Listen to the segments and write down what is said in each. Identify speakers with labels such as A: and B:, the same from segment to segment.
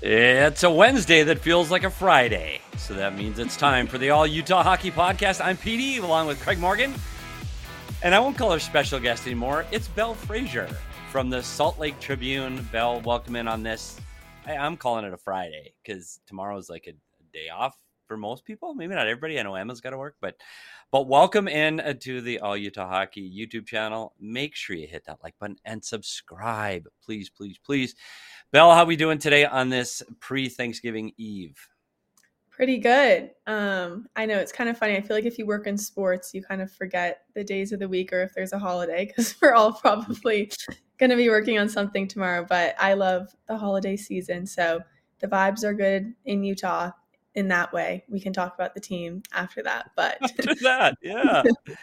A: It's a Wednesday that feels like a Friday. So that means it's time for the All Utah Hockey Podcast. I'm PD along with Craig Morgan. And I won't call her special guest anymore. It's Belle Fraser from the Salt Lake Tribune. Belle, welcome in on this. I'm calling it a Friday because tomorrow is like a day off for most people. Maybe not everybody. I know Emma's got to work, but welcome in to the All Utah Hockey YouTube channel. Make sure you hit that like button and subscribe. Please, please, please. Belle, how are we doing today on this pre-Thanksgiving Eve?
B: Pretty good. I know it's kind of funny. I feel like if you work in sports, you kind of forget the days of the week or if there's a holiday because we're all probably going to be working on something tomorrow. But I love the holiday season. So the vibes are good in Utah in that way. We can talk about the team after that. But
A: after that, yeah.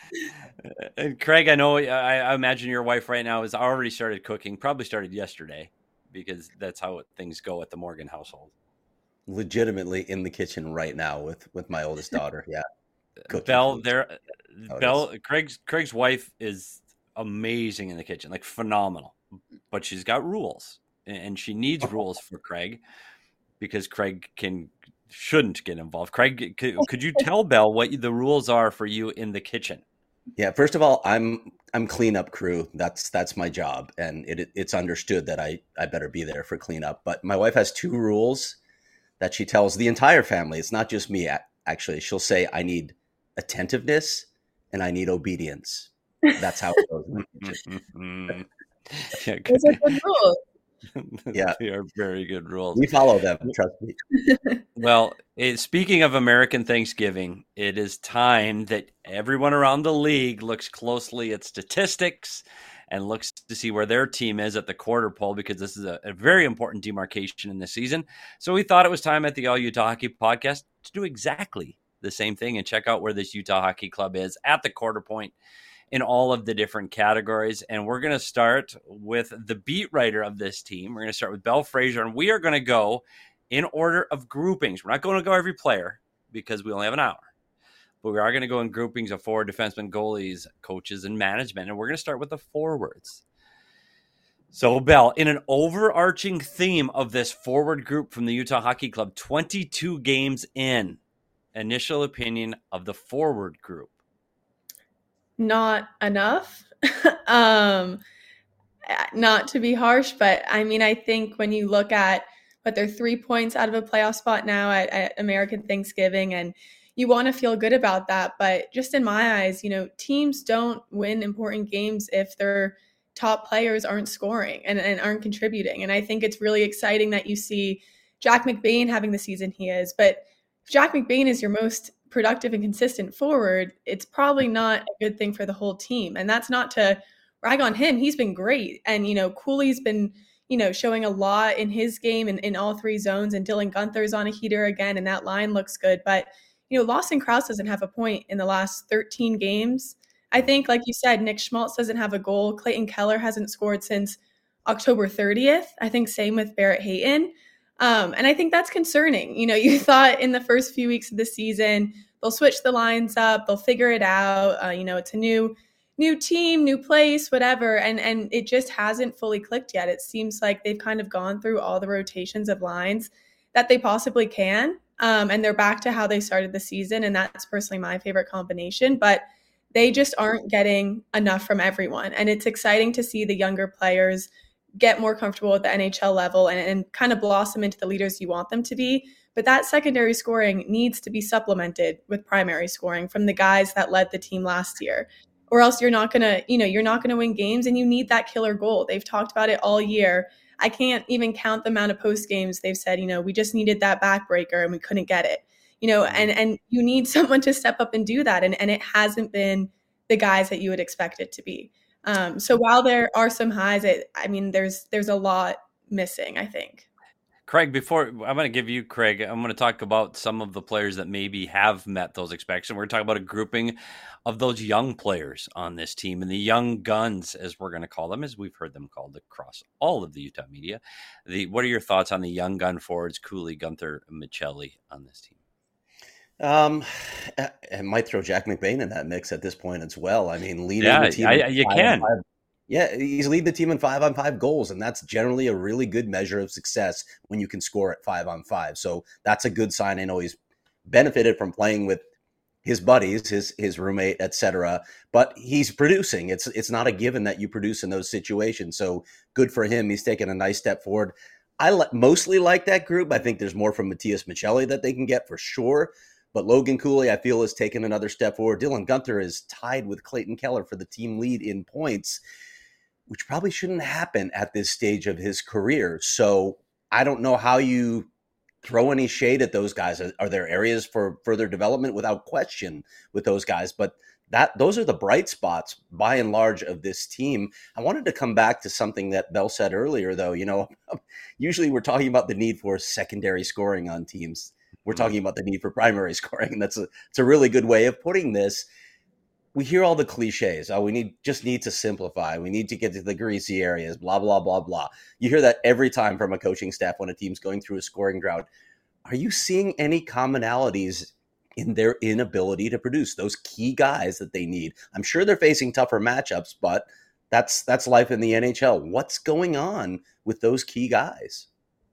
A: And Craig, I know, I imagine your wife right now has already started cooking, probably started yesterday because that's how things go at the Morgan household.
C: Legitimately in the kitchen right now with my oldest daughter. Yeah.
A: Belle, Craig's wife is amazing in the kitchen, like phenomenal, but she's got rules and she needs rules for Craig because Craig shouldn't get involved. Craig, could you tell Belle what the rules are for you in the kitchen?
C: Yeah. First of all, I'm cleanup crew. That's my job. And it's understood that I better be there for cleanup. But my wife has two rules that she tells the entire family. It's not just me. Actually, she'll say, I need attentiveness and I need obedience. That's how it goes.
B: Those are good rules.
C: Yeah.
A: They are very good rules.
C: We follow them, trust me.
A: Well, speaking of American Thanksgiving, it is time that everyone around the league looks closely at statistics and looks to see where their team is at the quarter pole because this is a very important demarcation in the season. So we thought it was time at the All Utah Hockey Podcast to do exactly the same thing and check out where this Utah Hockey Club is at the quarter point in all of the different categories. And we're going to start with the beat writer of this team. We're going to start with Belle Fraser, and we are going to go in order of groupings. We're not going to go every player because we only have an hour. But we are going to go in groupings of forward, defensemen, goalies, coaches, and management. And we're going to start with the forwards. So, Belle, in an overarching theme of this forward group from the Utah Hockey Club, 22 games in, initial opinion of the forward group.
B: Not enough. Not to be harsh, but I mean, I think when you look at what they're 3 points out of a playoff spot now at American Thanksgiving, and you want to feel good about that. But just in my eyes, teams don't win important games if their top players aren't scoring and aren't contributing. And I think it's really exciting that you see Jack McBain having the season he is. But if Jack McBain is your most productive and consistent forward, it's probably not a good thing for the whole team. And that's not to rag on him. He's been great. And, Cooley's been, showing a lot in his game and in all three zones. And Dylan Gunther's on a heater again, and that line looks good. But, Lawson Krause doesn't have a point in the last 13 games. I think, like you said, Nick Schmaltz doesn't have a goal. Clayton Keller hasn't scored since October 30th. I think same with Barrett Hayton. And I think that's concerning. You thought in the first few weeks of the season, they'll switch the lines up, they'll figure it out. It's a new team, new place, whatever. And it just hasn't fully clicked yet. It seems like they've kind of gone through all the rotations of lines that they possibly can. And they're back to how they started the season. And that's personally my favorite combination. But they just aren't getting enough from everyone. And it's exciting to see the younger players get more comfortable at the NHL level and kind of blossom into the leaders you want them to be. But that secondary scoring needs to be supplemented with primary scoring from the guys that led the team last year, or else you're not going to win games, and you need that killer goal. They've talked about it all year. I can't even count the amount of post games they've said, we just needed that backbreaker and we couldn't get it, and you need someone to step up and do that. And it hasn't been the guys that you would expect it to be. So while there are some highs, there's a lot missing, I think.
A: Craig, before I'm going to give you, Craig, I'm going to talk about some of the players that maybe have met those expectations. We're going to talk about a grouping of those young players on this team and the young guns, as we're going to call them, as we've heard them called across all of the Utah media. What are your thoughts on the young gun forwards, Cooley, Gunther, Michelli on this team?
C: I might throw Jack McBain in that mix at this point as well. I mean, leading the team.
A: You can.
C: Yeah, he's leading the team in 5-on-5 goals, and that's generally a really good measure of success when you can score at 5-on-5. So that's a good sign. I know he's benefited from playing with his buddies, his roommate, etc. But he's producing. It's not a given that you produce in those situations. So good for him. He's taken a nice step forward. I mostly like that group. I think there's more from Matias Michelli that they can get for sure. But Logan Cooley, I feel, has taken another step forward. Dylan Guenther is tied with Clayton Keller for the team lead in points, which probably shouldn't happen at this stage of his career. So I don't know how you throw any shade at those guys. Are there areas for further development? Without question with those guys, but those are the bright spots by and large of this team. I wanted to come back to something that Bell said earlier, though. Usually we're talking about the need for secondary scoring on teams. We're talking about the need for primary scoring, and it's a really good way of putting this. We hear all the cliches. Oh, we just need to simplify. We need to get to the greasy areas, blah, blah, blah, blah. You hear that every time from a coaching staff when a team's going through a scoring drought. Are you seeing any commonalities in their inability to produce those key guys that they need? I'm sure they're facing tougher matchups, but that's life in the NHL. What's going on with those key guys?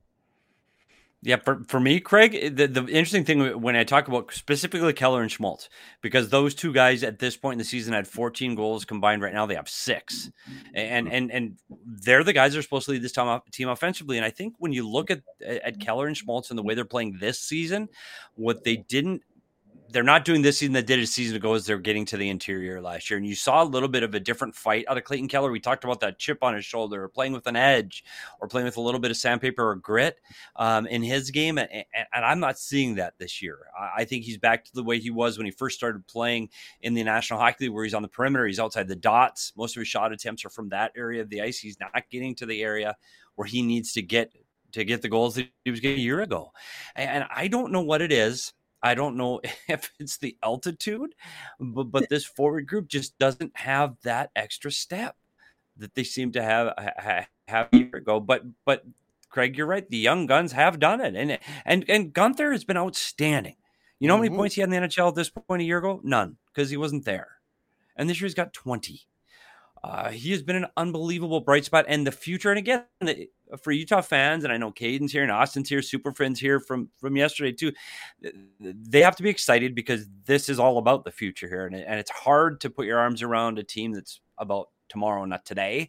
A: Yeah, for me, Craig, the interesting thing when I talk about specifically Keller and Schmaltz, because those two guys at this point in the season had 14 goals combined. Right now they have 6, and they're the guys that are supposed to lead this team offensively. And I think when you look at Keller and Schmaltz and the way they're playing this season, what they're not doing this season that did a season ago is they're getting to the interior last year. And you saw a little bit of a different fight out of Clayton Keller. We talked about that chip on his shoulder, or playing with an edge, or playing with a little bit of sandpaper or grit in his game. And I'm not seeing that this year. I think he's back to the way he was when he first started playing in the National Hockey League, where he's on the perimeter. He's outside the dots. Most of his shot attempts are from that area of the ice. He's not getting to the area where he needs to get the goals that he was getting a year ago. And I don't know what it is. I don't know if it's the altitude, but this forward group just doesn't have that extra step that they seem to have a year ago. But Craig, you're right. The young guns have done it, and Guenther has been outstanding. You know how many points he had in the NHL at this point a year ago? None, because he wasn't there. And this year he's got 20. He has been an unbelievable bright spot, and the future. And again, for Utah fans, and I know Caden's here and Austin's here, Super Friends here from yesterday too, they have to be excited because this is all about the future here. And it's hard to put your arms around a team that's about tomorrow, not today.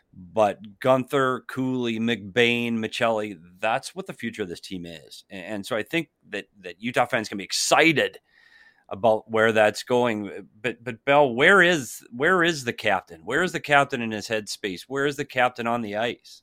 A: But Guenther, Cooley, McBain, Michelli, that's what the future of this team is. And so I think that Utah fans can be excited about where that's going. But Bell, where is the captain? Where is the captain in his headspace? Where is the captain on the ice?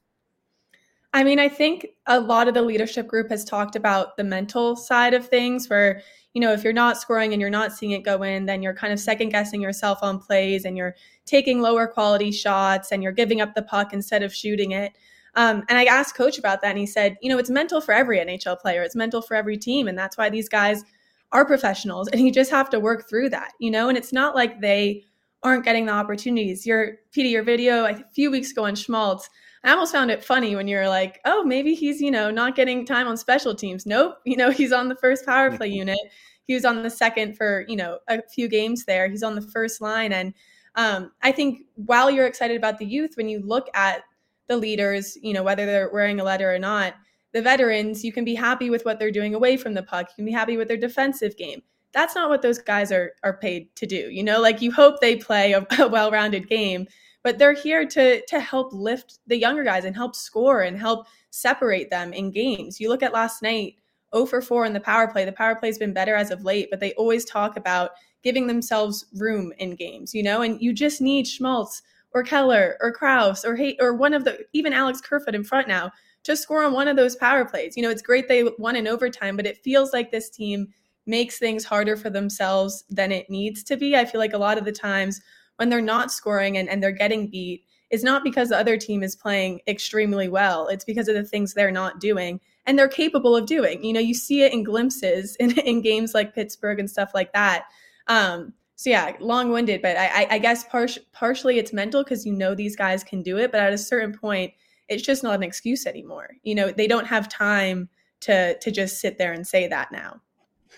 B: I mean, I think a lot of the leadership group has talked about the mental side of things where, if you're not scoring and you're not seeing it go in, then you're kind of second guessing yourself on plays and you're taking lower quality shots and you're giving up the puck instead of shooting it. And I asked Coach about that, and he said, it's mental for every NHL player. It's mental for every team. And that's why these guys are professionals, and you just have to work through that, and it's not like they aren't getting the opportunities. Petey, your video a few weeks ago on Schmaltz, I almost found it funny when you're like, oh, maybe he's, not getting time on special teams. Nope. He's on the first power play unit. He was on the second for, a few games there. He's on the first line. And I think while you're excited about the youth, when you look at the leaders, whether they're wearing a letter or not, the veterans, you can be happy with what they're doing away from the puck. You can be happy with their defensive game. That's not what those guys are paid to do. You hope they play a well-rounded game, but they're here to help lift the younger guys and help score and help separate them in games. You look at last night, 0 for 4 in the power play. The power play's been better as of late, but they always talk about giving themselves room in games, and you just need Schmaltz or Keller or Krause or one of even Alex Kerfoot in front now to score on one of those power plays. It's great they won in overtime, but it feels like this team makes things harder for themselves than it needs to be. I feel like a lot of the times when they're not scoring and they're getting beat, it's not because the other team is playing extremely well. It's because of the things they're not doing and they're capable of doing. You see it in glimpses in games like Pittsburgh and stuff like that. So yeah, long-winded, but I guess partially it's mental because these guys can do it, but at a certain point, it's just not an excuse anymore. They don't have time to just sit there and say that now.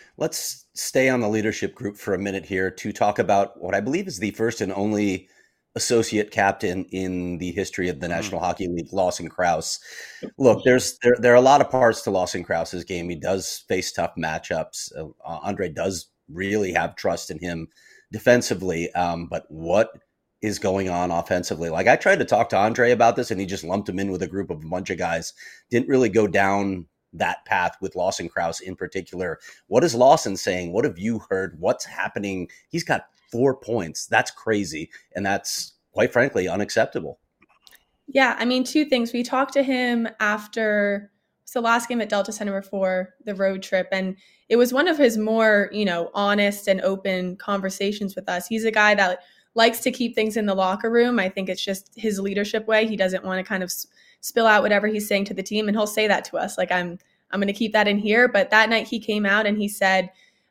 C: Let's stay on the leadership group for a minute here to talk about what I believe is the first and only associate captain in the history of the National Hockey League, Lawson Crouse. Look, there are a lot of parts to Lawson Crouse's game. He does face tough matchups. Andre does really have trust in him defensively, but what is going on offensively? Like, I tried to talk to Andre about this, and he just lumped him in with a group of a bunch of guys. Didn't really go down that path with Lawson Crouse in particular. What is Lawson saying? What have you heard? What's happening? He's got 4 points. That's crazy. And that's, quite frankly, unacceptable.
B: Yeah, I mean, two things. We talked to him after the last game at Delta Center before the road trip, and it was one of his more, honest and open conversations with us. He's a guy that likes to keep things in the locker room. I think it's just his leadership way. He doesn't want to kind of spill out whatever he's saying to the team, and he'll say that to us. Like, I'm going to keep that in here. But that night he came out and he said,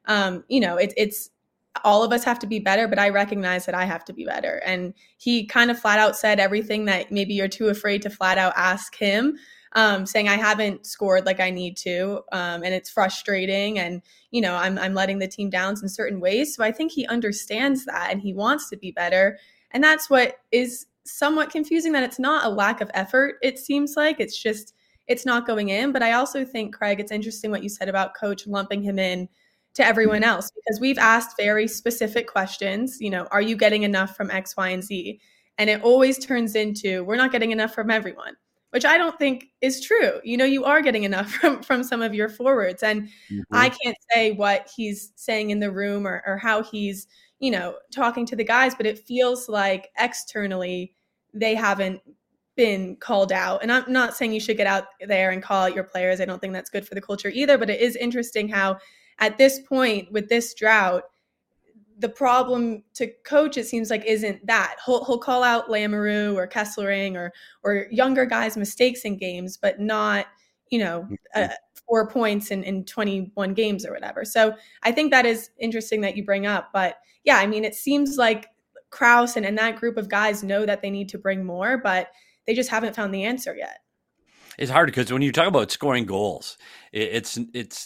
B: it's all of us have to be better, but I recognize that I have to be better. And he kind of flat out said everything that maybe you're too afraid to flat out ask him, saying I haven't scored like I need to, and it's frustrating, and I'm letting the team down in certain ways. So I think he understands that, and he wants to be better. And that's what is somewhat confusing, that it's not a lack of effort. It seems like it's not going in. But I also think, Craig, it's interesting what you said about coach lumping him in to everyone else, because we've asked very specific questions. Are you getting enough from X, Y, and Z? And it always turns into, we're not getting enough from everyone, which I don't think is true. You are getting enough from some of your forwards. And I can't say what he's saying in the room or how he's, talking to the guys, but it feels like externally they haven't been called out. And I'm not saying you should get out there and call out your players. I don't think that's good for the culture either, but it is interesting how at this point with this drought, the problem to coach, it seems like, isn't that. He'll call out Lamoureux or Kesselring or younger guys' mistakes in games, but not, 4 points in 21 games or whatever. So I think that is interesting that you bring up. But yeah, I mean, it seems like Crouse and that group of guys know that they need to bring more, but they just haven't found the answer yet.
A: It's hard because when you talk about scoring goals, it's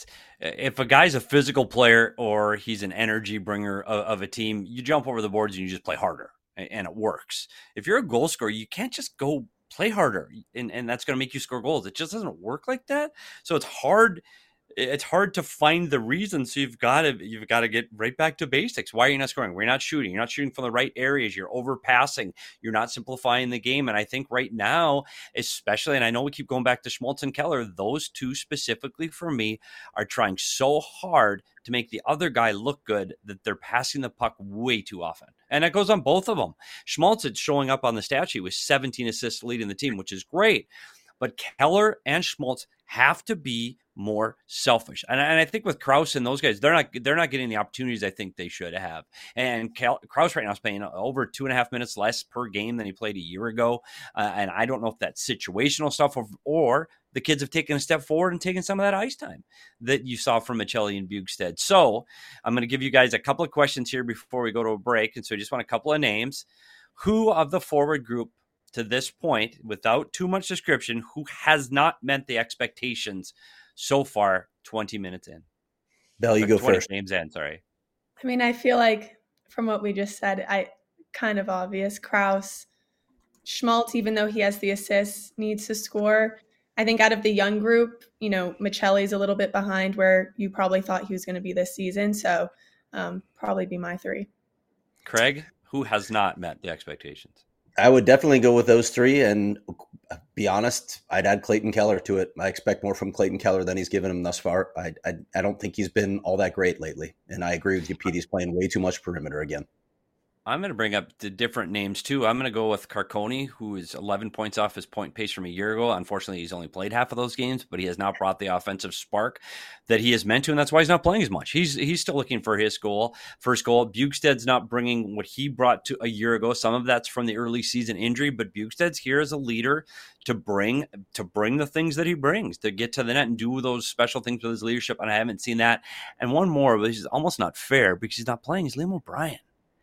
A: if a guy's a physical player or he's an energy bringer of a team, you jump over the boards and you just play harder, and it works. If you're a goal scorer, you can't just go play harder and that's going to make you score goals. It just doesn't work like that. So it's hard. It's hard to find the reason. So you've got to get right back to basics. Why are you not scoring? We're not shooting. You're not shooting from the right areas. You're overpassing. You're not simplifying the game. And I think right now, especially, and I know we keep going back to Schmaltz and Keller, those two specifically for me are trying so hard to make the other guy look good that they're passing the puck way too often. And that goes on both of them. Schmaltz is showing up on the stat sheet with 17 assists leading the team, which is great. But Keller and Schmaltz have to be more selfish. And I think with Crouse and those guys, they're not getting the opportunities I think they should have. And Crouse right now is playing over 2.5 minutes less per game than he played a year ago. And I don't know if that's situational stuff or the kids have taken a step forward and taken some of that ice time that you saw from Michelli and Bjugstad. So I'm going to give you guys a couple of questions here before we go to a break. And so I just want a couple of names. Who of the forward group to this point, without too much description, who has not met the expectations so far 20 minutes in?
C: Bell, you go first.
A: Games in, sorry.
B: I mean, I feel like from what we just said, kind of obvious. Crouse, Schmaltz, even though he has the assists, needs to score. I think out of the young group, Michelli's a little bit behind where you probably thought he was going to be this season. So probably be my three.
A: Craig, who has not met the expectations?
C: I would definitely go with those three, and be honest, I'd add Clayton Keller to it. I expect more from Clayton Keller than he's given him thus far. I don't think he's been all that great lately, and I agree with you, Pete. He's playing way too much perimeter again.
A: I'm going to bring up the different names too. I'm going to go with Carconi, who is 11 points off his point pace from a year ago. Unfortunately, he's only played half of those games, but he has now brought the offensive spark that he is meant to, and that's why he's not playing as much. He's still looking for his first goal. Bjugstad's not bringing what he brought to a year ago. Some of that's from the early season injury, but Bjugstad's here as a leader to bring the things that he brings, to get to the net and do those special things with his leadership, and I haven't seen that. And one more, which is almost not fair because he's not playing, is Liam O'Brien.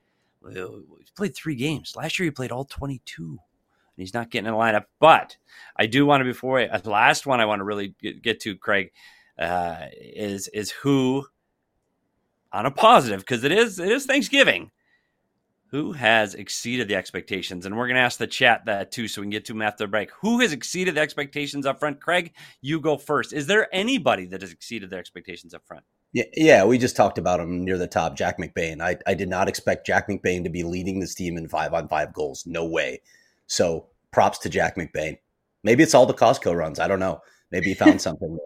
A: He's played 3 games. Last year he played all 22, and he's not getting in the lineup. But I do want to, the last one I want to really get to, Craig, is who, on a positive, because it is Thanksgiving, Who has exceeded the expectations? And we're going to ask the chat that too, so we can get to them after the break. Who has exceeded the expectations up front? Craig, you go first. Is there anybody that has exceeded their expectations up front?
C: Yeah, we just talked about him near the top, Jack McBain. I did not expect Jack McBain to be leading this team in 5-on-5 goals. No way. So props to Jack McBain. Maybe it's all the Costco runs. I don't know. Maybe he found something.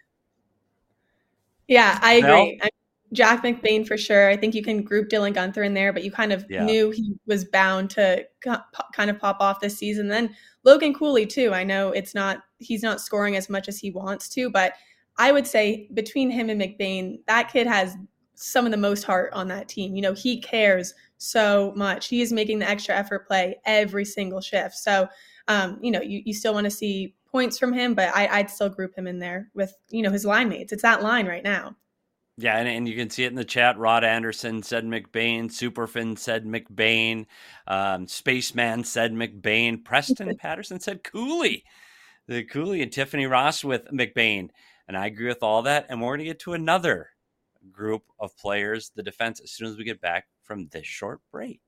B: Yeah, I agree. Jack McBain for sure. I think you can group Dylan Guenther in there, but you kind of knew he was bound to kind of pop off this season. Then Logan Cooley too. I know he's not scoring as much as he wants to, but I would say between him and McBain, that kid has some of the most heart on that team. You know, he cares so much. He is making the extra effort play every single shift. So, you know, you still want to see points from him, but I'd still group him in there with, you know, his line mates. It's that line right now.
A: Yeah, and you can see it in the chat. Rod Anderson said McBain. Superfin said McBain. Spaceman said McBain. Preston Patterson said Cooley. The Cooley and Tiffany Ross with McBain. And I agree with all that. And we're going to get to another group of players, the defense, as soon as we get back from this short break.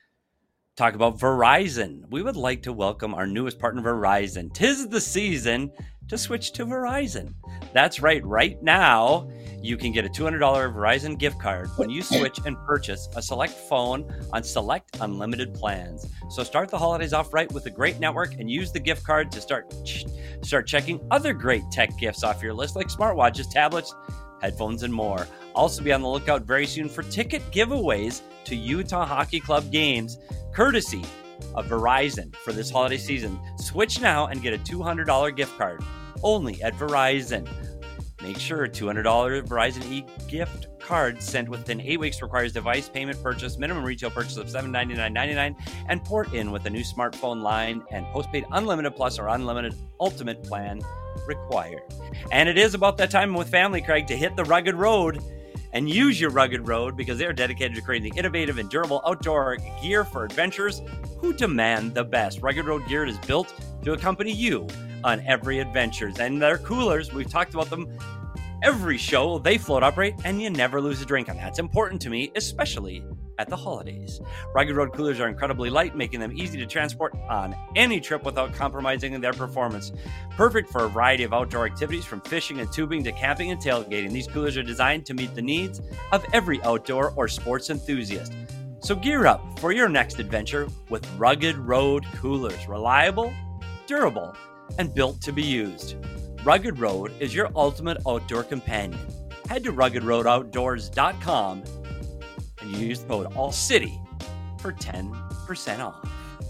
A: Talk about Verizon. We would like to welcome our newest partner, Verizon. 'Tis the season to switch to Verizon. That's right. Right now, you can get a $200 Verizon gift card when you switch and purchase a select phone on select unlimited plans. So start the holidays off right with a great network and use the gift card to start checking other great tech gifts off your list like smartwatches, tablets, headphones, and more. Also be on the lookout very soon for ticket giveaways to Utah Hockey Club games, courtesy of Verizon for this holiday season. Switch now and get a $200 gift card only at Verizon. Make sure $200 Verizon e-gift card sent within 8 weeks requires device payment purchase, minimum retail purchase of $799.99, and port in with a new smartphone line and postpaid unlimited plus or unlimited ultimate plan required. And it is about that time with family, Craig, to hit the rugged road and use your rugged road because they are dedicated to creating the innovative and durable outdoor gear for adventurers who demand the best. Rugged Road gear is built to accompany you on every adventure. And their coolers, we've talked about them every show. They float upright and you never lose a drink. And that's important to me, especially at the holidays. Rugged Road coolers are incredibly light, making them easy to transport on any trip without compromising their performance. Perfect for a variety of outdoor activities, from fishing and tubing to camping and tailgating. These coolers are designed to meet the needs of every outdoor or sports enthusiast. So gear up for your next adventure with Rugged Road coolers. Reliable, durable, and built to be used. Rugged Road is your ultimate outdoor companion. Head to ruggedroadoutdoors.com and use the code ALLCITY for 10% off.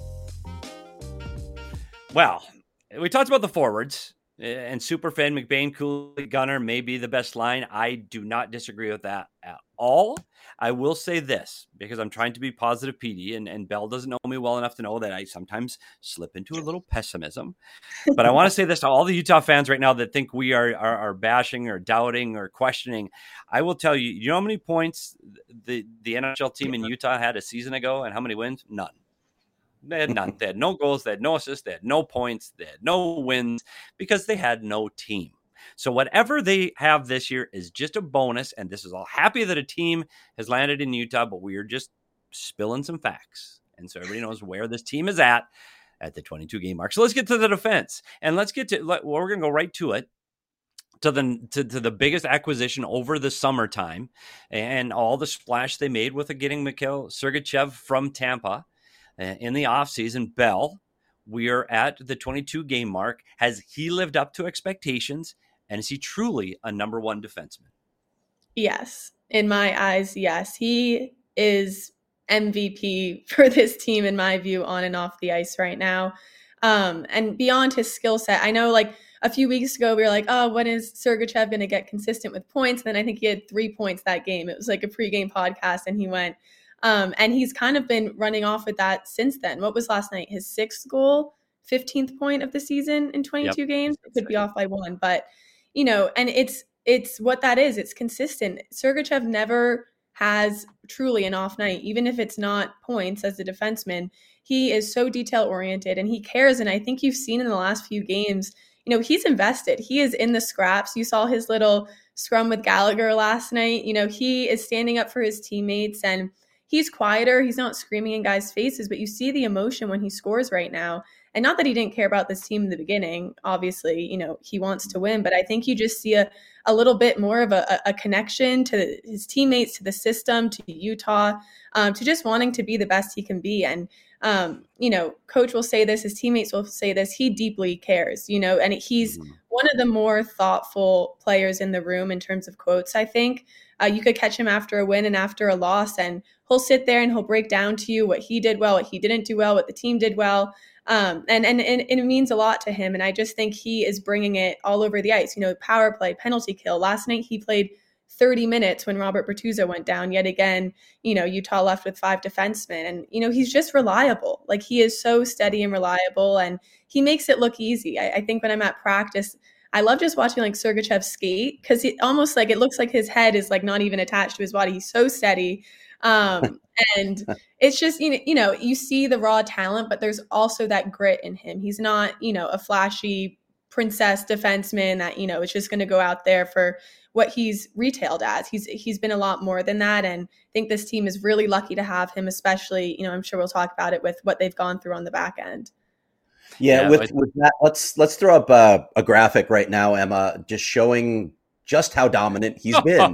A: Well, we talked about the forwards, and Superfan, McBain, Cooley, Gunner may be the best line. I do not disagree with that at all. I will say this, because I'm trying to be positive, PD, and Bell doesn't know me well enough to know that I sometimes slip into a little pessimism. But I want to say this to all the Utah fans right now that think we are bashing or doubting or questioning. I will tell you, you know how many points the NHL team in Utah had a season ago and how many wins? None. They had none. They had no goals. They had no assists. They had no points. They had no wins because they had no team. So whatever they have this year is just a bonus. And this is all happy that a team has landed in Utah, but we are just spilling some facts. And so everybody knows where this team is at the 22 game mark. So let's get to the defense, and let's get to, well, we're going to go right to it. To the biggest acquisition over the summertime and all the splash they made with getting Mikhail Sergachev from Tampa in the offseason. Bell, we are at the 22 game mark. Has he lived up to expectations? And is he truly a number one defenseman?
B: Yes. In my eyes, yes. He is MVP for this team, in my view, on and off the ice right now. And beyond his skill set, I know like a few weeks ago, we were like, oh, when is Sergachev going to get consistent with points? And then I think he had 3 points that game. It was like a pregame podcast and he went. And he's kind of been running off with that since then. What was last night? His 6th goal, 15th point of the season in 22 games. It could be off by 1, but you know, and it's what that is. It's consistent. Sergachev never has truly an off night, even if it's not points as a defenseman. He is so detail oriented and he cares. And I think you've seen in the last few games, you know, he's invested. He is in the scraps. You saw his little scrum with Gallagher last night. You know, he is standing up for his teammates, and he's quieter. He's not screaming in guys' faces, but you see the emotion when he scores right now. And not that he didn't care about this team in the beginning. Obviously, he wants to win, but I think you just see a little bit more of a connection to his teammates, to the system, to Utah, to just wanting to be the best he can be. And, coach will say this, his teammates will say this, he deeply cares, and he's one of the more thoughtful players in the room in terms of quotes, I think. You could catch him after a win and after a loss, and he'll sit there and he'll break down to you what he did well, what he didn't do well, what the team did well. And it means a lot to him. And I just think he is bringing it all over the ice, power play, penalty kill. Last night, he played 30 minutes when Robert Bertuzzo went down. Yet again, Utah left with 5 defensemen, and, he's just reliable. Like, he is so steady and reliable, and he makes it look easy. I think when I'm at practice, I love just watching like Sergachev skate, because it almost like it looks like his head is like not even attached to his body. He's so steady. And it's just, you see the raw talent, but there's also that grit in him. He's not, a flashy princess defenseman that, is just going to go out there for what he's retailed as. He's been a lot more than that. And I think this team is really lucky to have him, especially, I'm sure we'll talk about it with what they've gone through on the back end.
C: Yeah, with that, let's throw up a graphic right now, Emma, just showing just how dominant he's been.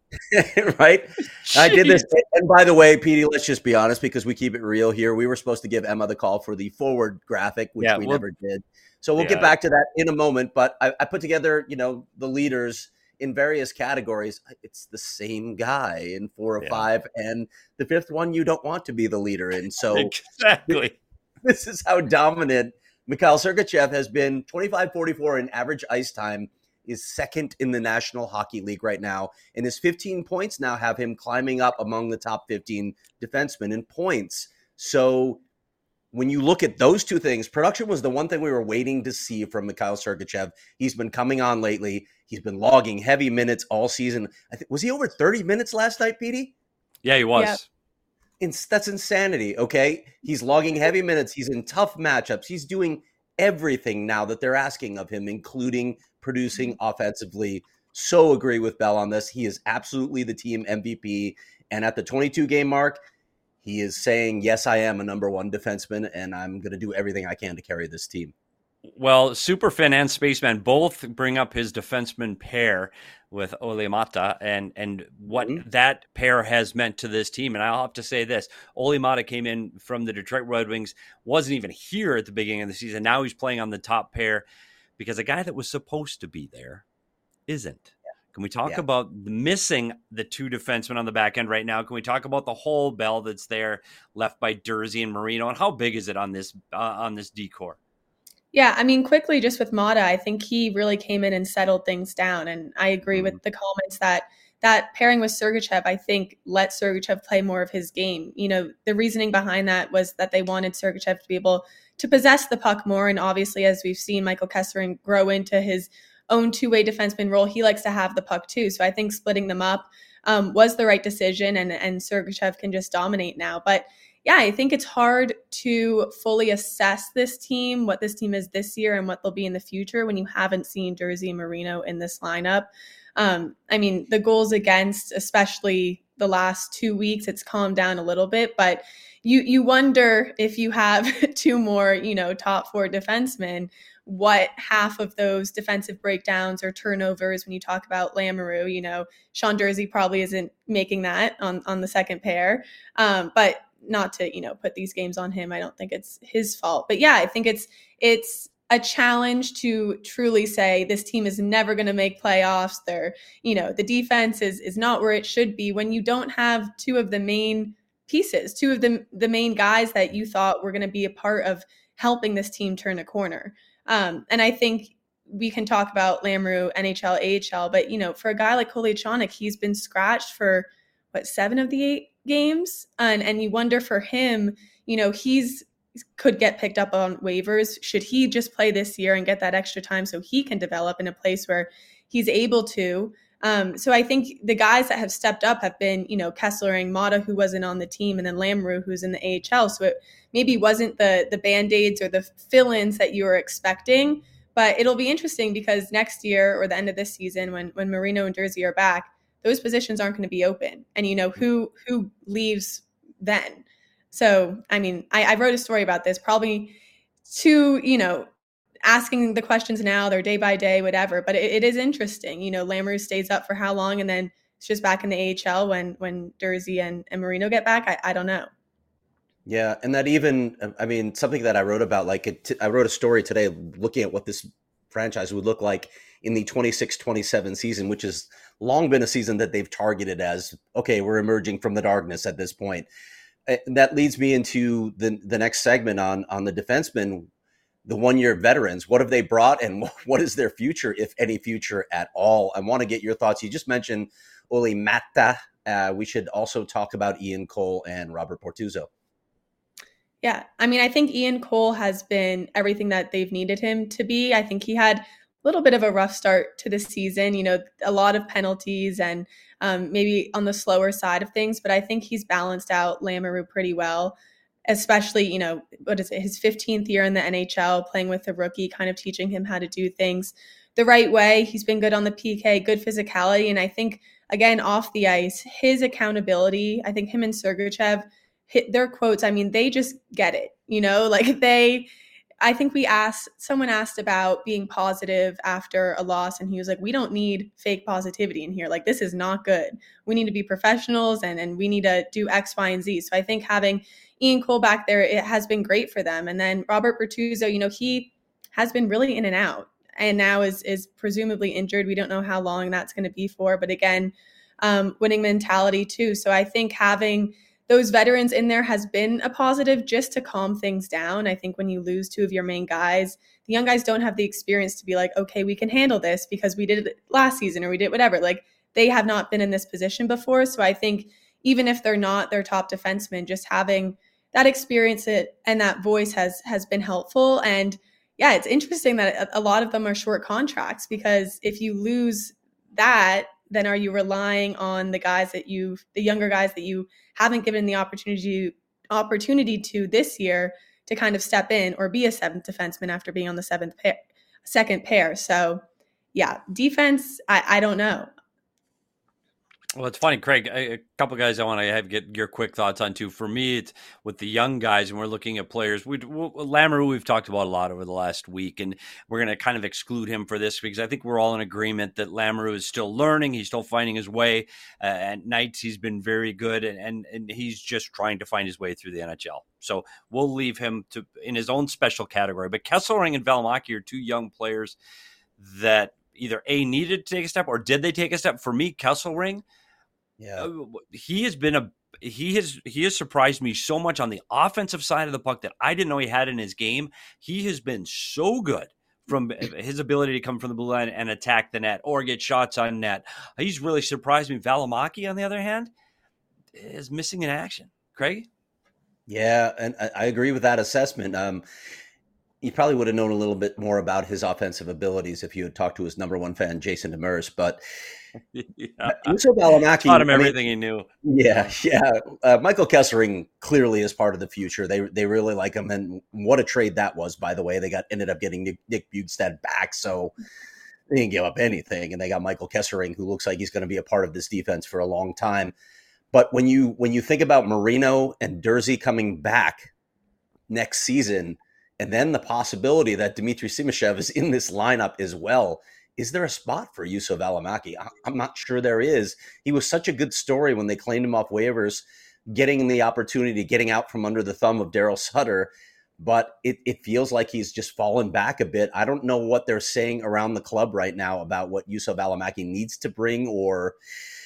C: Right? Jeez. I did this. And by the way, Petey, let's just be honest, because we keep it real here. We were supposed to give Emma the call for the forward graphic, which we never did. So we'll get back to that in a moment. But I put together, the leaders in various categories. It's the same guy in 4 or 5. And the 5th one, you don't want to be the leader in. So
A: exactly.
C: This is how dominant Mikhail Sergachev has been. 25-44 in average ice time, is second in the National Hockey League right now. And his 15 points now have him climbing up among the top 15 defensemen in points. So when you look at those two things, production was the one thing we were waiting to see from Mikhail Sergachev. He's been coming on lately. He's been logging heavy minutes all season. Was he over 30 minutes last night, Petey?
A: Yeah, he was.
B: Yeah.
C: That's insanity, okay? He's logging heavy minutes. He's in tough matchups. He's doing everything now that they're asking of him, including producing offensively. So agree with Bell on this. He is absolutely the team MVP. And at the 22-game mark, he is saying, yes, I am a number 1 defenseman, and I'm going to do everything I can to carry this team.
A: Well, Superfin and Spaceman both bring up his defenseman pair with Olli Maatta and what that pair has meant to this team. And I'll have to say this, Olli Maatta came in from the Detroit Red Wings, wasn't even here at the beginning of the season. Now he's playing on the top pair because a guy that was supposed to be there isn't. Can we talk about missing the 2 defensemen on the back end right now? Can we talk about the whole bell that's there left by Durzi and Marino? And how big is it on this decor?
B: Yeah, I mean, quickly, just with Maatta, I think he really came in and settled things down. And I agree with the comments that pairing with Sergachev, I think, let Sergachev play more of his game. The reasoning behind that was that they wanted Sergachev to be able to possess the puck more. And obviously, as we've seen Michael Kesselring grow into his own 2-way defenseman role, he likes to have the puck too. So I think splitting them up was the right decision, and Sergachev can just dominate now. But yeah, I think it's hard to fully assess this team, what this team is this year and what they'll be in the future when you haven't seen Durzi and Marino in this lineup. I mean, the goals against, especially the last 2 weeks, it's calmed down a little bit, but you wonder if you have 2 more, top 4 defensemen, what half of those defensive breakdowns or turnovers when you talk about Lamoureux, Sean Durzi probably isn't making that on the second pair. But not to, put these games on him. I don't think it's his fault. But yeah, I think it's a challenge to truly say this team is never going to make playoffs. They're, the defense is not where it should be when you don't have 2 of the main pieces, 2 of the main guys that you thought were going to be a part of helping this team turn a corner. And I think we can talk about Lamoureux, NHL, AHL, but, for a guy like Kolyachonok, he's been scratched for 7 of the 8 games. And you wonder for him, he's could get picked up on waivers. Should he just play this year and get that extra time so he can develop in a place where he's able to? So I think the guys that have stepped up have been, Kesselring, Maatta, who wasn't on the team, and then Lamoureux, who's in the AHL. So it maybe wasn't the Band-Aids or the fill-ins that you were expecting, but it'll be interesting because next year or the end of this season, when Marino and Durzi are back, those positions aren't going to be open. And, who leaves then. So, I mean, I wrote a story about this, probably too, asking the questions now, they're day by day, whatever. But it is interesting. Lamoureux stays up for how long, and then it's just back in the AHL when Durzi and Marino get back. I don't know.
C: Yeah, and that even, I mean, something that I wrote about, I wrote a story today looking at what this franchise would look like in the 26-27 season, which has long been a season that they've targeted as, okay, we're emerging from the darkness at this point. And that leads me into the next segment on the defensemen, the one-year veterans. What have they brought, and what is their future, if any future at all? I want to get your thoughts. You just mentioned Olli Maatta. We should also talk about Ian Cole and Robert Bortuzzo.
B: Yeah, I mean, I think Ian Cole has been everything that they've needed him to be. I think he had a little bit of a rough start to the season, a lot of penalties and maybe on the slower side of things, but I think he's balanced out Lamoureux pretty well, especially, his 15th year in the NHL, playing with a rookie, kind of teaching him how to do things the right way. He's been good on the PK, good physicality, and I think, again, off the ice, his accountability, I think him and Sergachev hit their quotes. I mean, they just get it, I think someone asked about being positive after a loss, and he was like, we don't need fake positivity in here. Like, this is not good. We need to be professionals and we need to do X, Y, and Z. So I think having Ian Cole back there, it has been great for them. And then Robert Bortuzzo, he has been really in and out, and now is presumably injured. We don't know how long that's going to be for, but again, winning mentality too. So I think having those veterans in there has been a positive, just to calm things down. I think when you lose two of your main guys, the young guys don't have the experience to be like, okay, we can handle this because we did it last season or we did whatever. Like, they have not been in this position before. So I think even if they're not their top defenseman, just having that experience and that voice has been helpful. And yeah, it's interesting that a lot of them are short contracts, because if you lose that, then are you relying on the younger guys that you haven't given the opportunity to this year to kind of step in or be a seventh defenseman after being on the second pair? So yeah, defense, I don't know.
A: Well, it's funny, Craig, a couple of guys I want to get your quick thoughts on too. For me, it's with the young guys, and we're looking at players. Lamoureux, we've talked about a lot over the last week, and we're going to kind of exclude him for this because I think we're all in agreement that Lamoureux is still learning. He's still finding his way. At nights, he's been very good, and he's just trying to find his way through the NHL. So we'll leave him in his own special category. But Kesselring and Valimaki are two young players that either needed to take a step, or did they take a step? For me, Kesselring, yeah, he has surprised me so much on the offensive side of the puck that I didn't know he had in his game. He has been so good from his ability to come from the blue line and attack the net or get shots on net. He's really surprised me. Valimaki, on the other hand, is missing in action. Craig?
C: Yeah, and I agree with that assessment. You probably would have known a little bit more about his offensive abilities if you had talked to his number one fan, Jason Demers, but Juuso Valimaki
A: taught him everything he knew.
C: Yeah. Michael Kesselring clearly is part of the future. They really like him, and what a trade that was, by the way. They ended up getting Nick Bjugstad back, so they didn't give up anything, and they got Michael Kesselring, who looks like he's going to be a part of this defense for a long time. But when you think about Marino and Durzi coming back next season, and then the possibility that Dmitry Simashev is in this lineup as well, is there a spot for Juuso Valimaki? I'm not sure there is. He was such a good story when they claimed him off waivers, getting the opportunity, getting out from under the thumb of Daryl Sutter. But it feels like he's just fallen back a bit. I don't know what they're saying around the club right now about what Juuso Valimaki needs to bring, or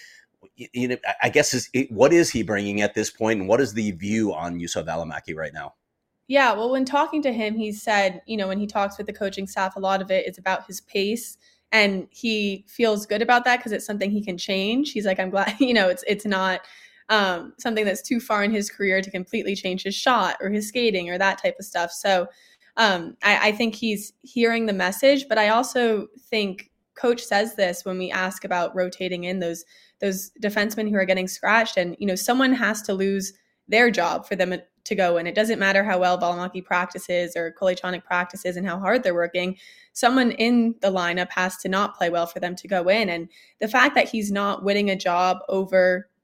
C: I guess what is he bringing at this point, and what is the view on Juuso Valimaki right now?
B: Yeah, well, when talking to him, he said, when he talks with the coaching staff, a lot of it is about his pace. And he feels good about that because it's something he can change. He's like, I'm glad, it's not something that's too far in his career to completely change his shot or his skating or that type of stuff. So I think he's hearing the message, but I also think Coach says this when we ask about rotating in those defensemen who are getting scratched, and, someone has to lose their job for them to go in. It doesn't matter how well Valimaki practices or Kolyachonok practices and how hard they're working. Someone in the lineup has to not play well for them to go in. And the fact that he's not winning a job over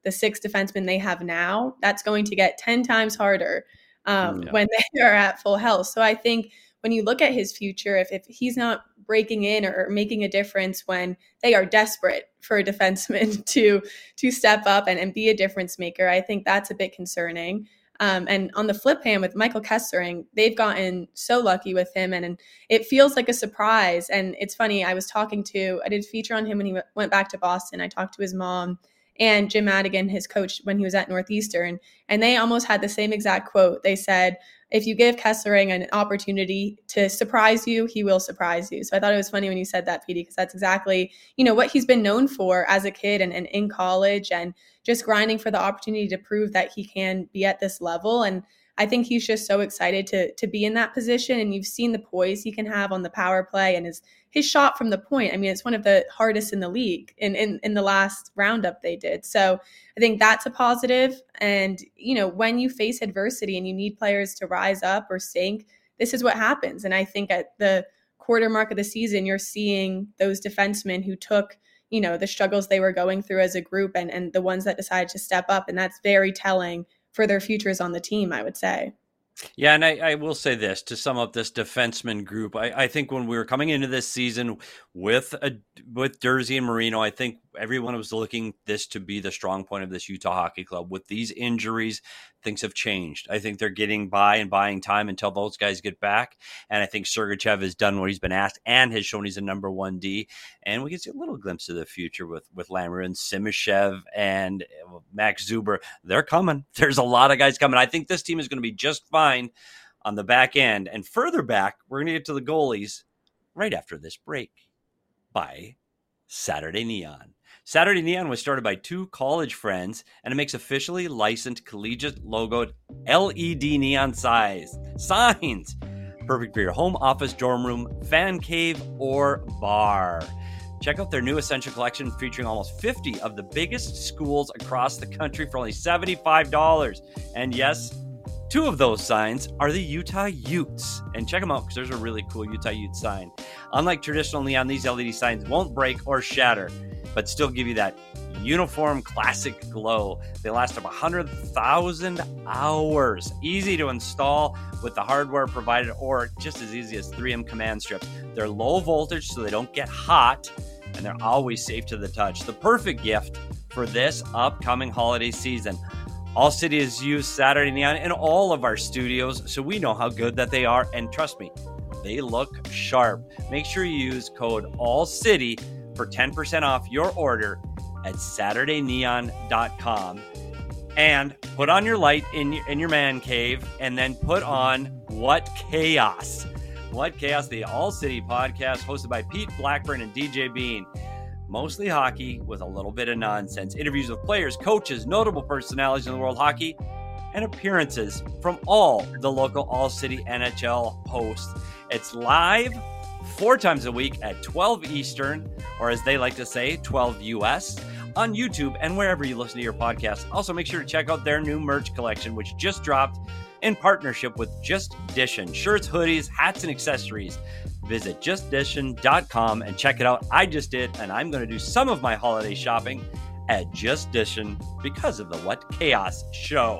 B: the 6 defensemen they have now, that's going to get 10 times harder when they are at full health. So I think when you look at his future, if he's not breaking in or making a difference when they are desperate for a defenseman to step up and be a difference maker, I think that's a bit concerning. And on the flip hand with Michael Kessering, they've gotten so lucky with him, and it feels like a surprise. And it's funny, I did a feature on him when he went back to Boston. I talked to his mom and Jim Madigan, his coach, when he was at Northeastern, and they almost had the same exact quote. They said, if you give Kessering an opportunity to surprise you, he will surprise you. So I thought it was funny when you said that, Petey, because that's exactly, what he's been known for as a kid and in college, and just grinding for the opportunity to prove that he can be at this level. And I think he's just so excited to be in that position. And you've seen the poise he can have on the power play and his shot from the point. I mean, it's one of the hardest in the league in the last roundup they did. So I think that's a positive. And, when you face adversity and you need players to rise up or sink, this is what happens. And I think at the quarter mark of the season, you're seeing those defensemen who took, the struggles they were going through as a group and the ones that decided to step up. And that's very telling for their futures on the team, I would say.
A: Yeah, and I will say this, to sum up this defenseman group, I think when we were coming into this season with Durzi and Marino, I think everyone was looking this to be the strong point of this Utah Hockey Club. With these injuries, things have changed. I think they're getting by and buying time until those guys get back. And I think Sergachev has done what he's been asked and has shown he's a number 1D. And we can see a little glimpse of the future with Lammers and Simishev and Max Zuber. They're coming. There's a lot of guys coming. I think this team is going to be just fine on the back end. And further back, we're going to get to the goalies right after this break by Saturday Neon. Saturday Neon was started by 2 college friends, and it makes officially licensed collegiate logoed LED neon signs. Perfect for your home, office, dorm room, fan cave, or bar. Check out their new Essential Collection featuring almost 50 of the biggest schools across the country for only $75. And yes, 2 of those signs are the Utah Utes. And check them out because there's a really cool Utah Utes sign. Unlike traditional neon, these LED signs won't break or shatter, but still give you that uniform classic glow. They last up 100,000 hours. Easy to install with the hardware provided, or just as easy as 3M command strips. They're low voltage so they don't get hot, and they're always safe to the touch. The perfect gift for this upcoming holiday season. All City has used Saturday Neon in all of our studios, so we know how good that they are, and trust me, they look sharp. Make sure you use code ALLCITY for 10% off your order at SaturdayNeon.com. And put on your light in your man cave, and then put on What Chaos. What Chaos, the All City podcast hosted by Pete Blackburn and DJ Bean. Mostly hockey with a little bit of nonsense. Interviews with players, coaches, notable personalities in the world of hockey, and appearances from all the local All City NHL hosts. It's live 4 times a week at 12 Eastern, or as they like to say, 12 US, on YouTube and wherever you listen to your podcast. Also, make sure to check out their new merch collection, which just dropped in partnership with Just Dishin'. Shirts, hoodies, hats, and accessories. Visit justdishin.com and check it out. I just did, and I'm going to do some of my holiday shopping at Just Dishin' because of the What Chaos show.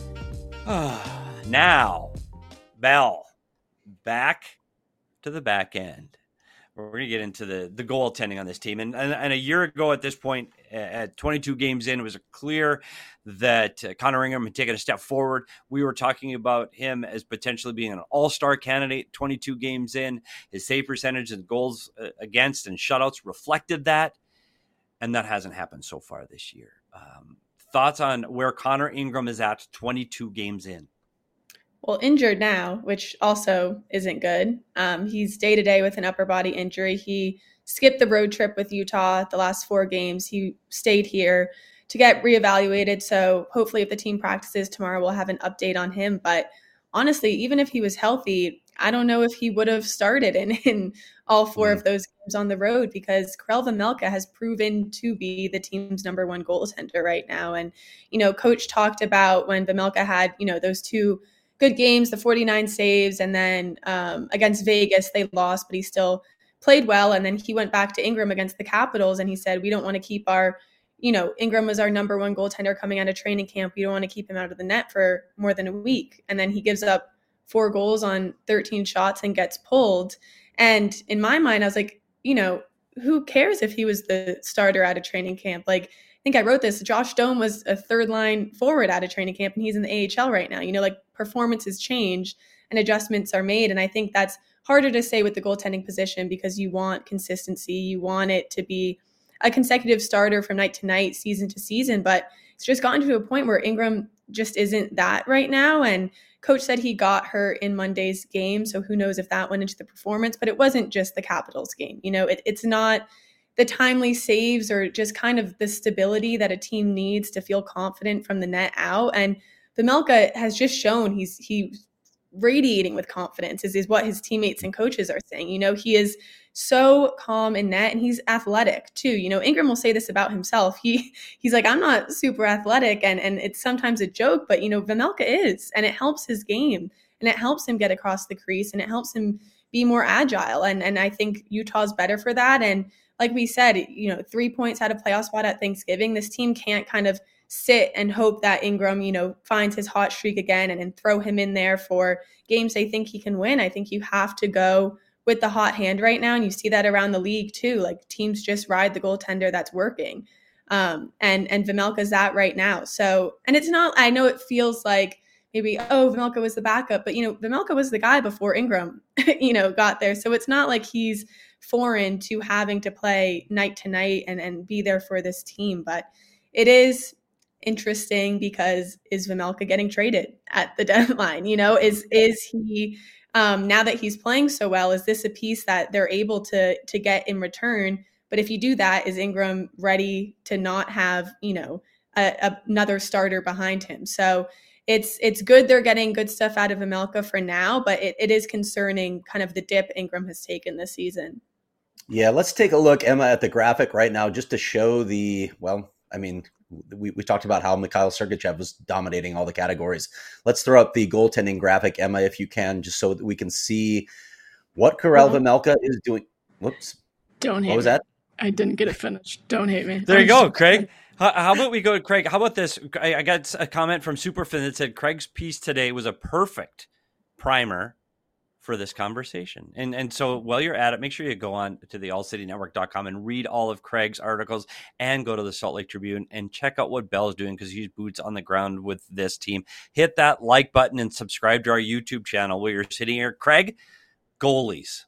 A: Now, Bell, back to the back end. We're going to get into the goaltending on this team. And a year ago at this point, at 22 games in, it was clear that Connor Ingram had taken a step forward. We were talking about him as potentially being an all-star candidate 22 games in. His save percentage and goals against and shutouts reflected that. And that hasn't happened so far this year. Thoughts on where Connor Ingram is at 22 games in?
B: Well, injured now, which also isn't good. He's day-to-day with an upper body injury. He skipped the road trip with Utah the last 4 games. He stayed here to get reevaluated. So hopefully if the team practices tomorrow, we'll have an update on him. But honestly, even if he was healthy, I don't know if he would have started in all 4 of those games on the road, because Karel Vejmelka has proven to be the team's number 1 goaltender right now. And, Coach talked about when Vejmelka had, those 2 good games, the 49 saves, and then against Vegas, they lost, but he still played well. And then he went back to Ingram against the Capitals, and he said, we don't want to keep our, Ingram was our number one goaltender coming out of training camp. You don't want to keep him out of the net for more than a week. And then he gives up 4 goals on 13 shots and gets pulled. And in my mind, I was like, who cares if he was the starter out of training camp? Like, I think I wrote this. Josh Doan was a 3rd-line forward out of training camp, and he's in the AHL right now. Like, performances change and adjustments are made. And I think that's harder to say with the goaltending position because you want consistency. You want it to be a consecutive starter from night to night, season to season. But it's just gotten to a point where Ingram just isn't that right now. And coach said he got hurt in Monday's game, so who knows if that went into the performance. But it wasn't just the Capitals game. It's not the timely saves or just kind of the stability that a team needs to feel confident from the net out. And Vejmelka has just shown he's radiating with confidence is what his teammates and coaches are saying. He is so calm in net, and he's athletic too. Ingram will say this about himself. He's like, I'm not super athletic, and it's sometimes a joke, but Vejmelka is, and it helps his game, and it helps him get across the crease, and it helps him be more agile. And I think Utah's better for that. And like we said, 3 points out of playoff spot at Thanksgiving. This team can't kind of sit and hope that Ingram, finds his hot streak again and throw him in there for games they think he can win. I think you have to go with the hot hand right now. And you see that around the league too. Like, teams just ride the goaltender that's working. And Vejmelka's that right now. So, and it's not, I know it feels like maybe, Vejmelka was the backup, but Vejmelka was the guy before Ingram, got there. So it's not like he's foreign to having to play night to night and be there for this team. But it is interesting because is Vejmelka getting traded at the deadline? Is he now that he's playing so well, is this a piece that they're able to get in return? But if you do that, is Ingram ready to not have another starter behind him? So it's good they're getting good stuff out of Vejmelka for now, but it is concerning kind of the dip Ingram has taken this season.
C: Yeah, let's take a look, Emma, at the graphic right now just to show we talked about how Mikhail Sergachev was dominating all the categories. Let's throw up the goaltending graphic, Emma, if you can, just so that we can see what Karel Vejmelka is doing. Whoops.
D: Don't hate
C: me. What was
D: me.
C: that?
D: I didn't get it finished. Don't hate me.
A: There you go, Craig. How about we go to Craig? How about this? I got a comment from Superfin that said Craig's piece today was a perfect primer for this conversation. And so while you're at it, make sure you go on to the allcitynetwork.com and read all of Craig's articles and go to the Salt Lake Tribune and check out what Bell's doing because he's boots on the ground with this team. Hit that like button and subscribe to our YouTube channel while you're sitting here. Craig, goalies.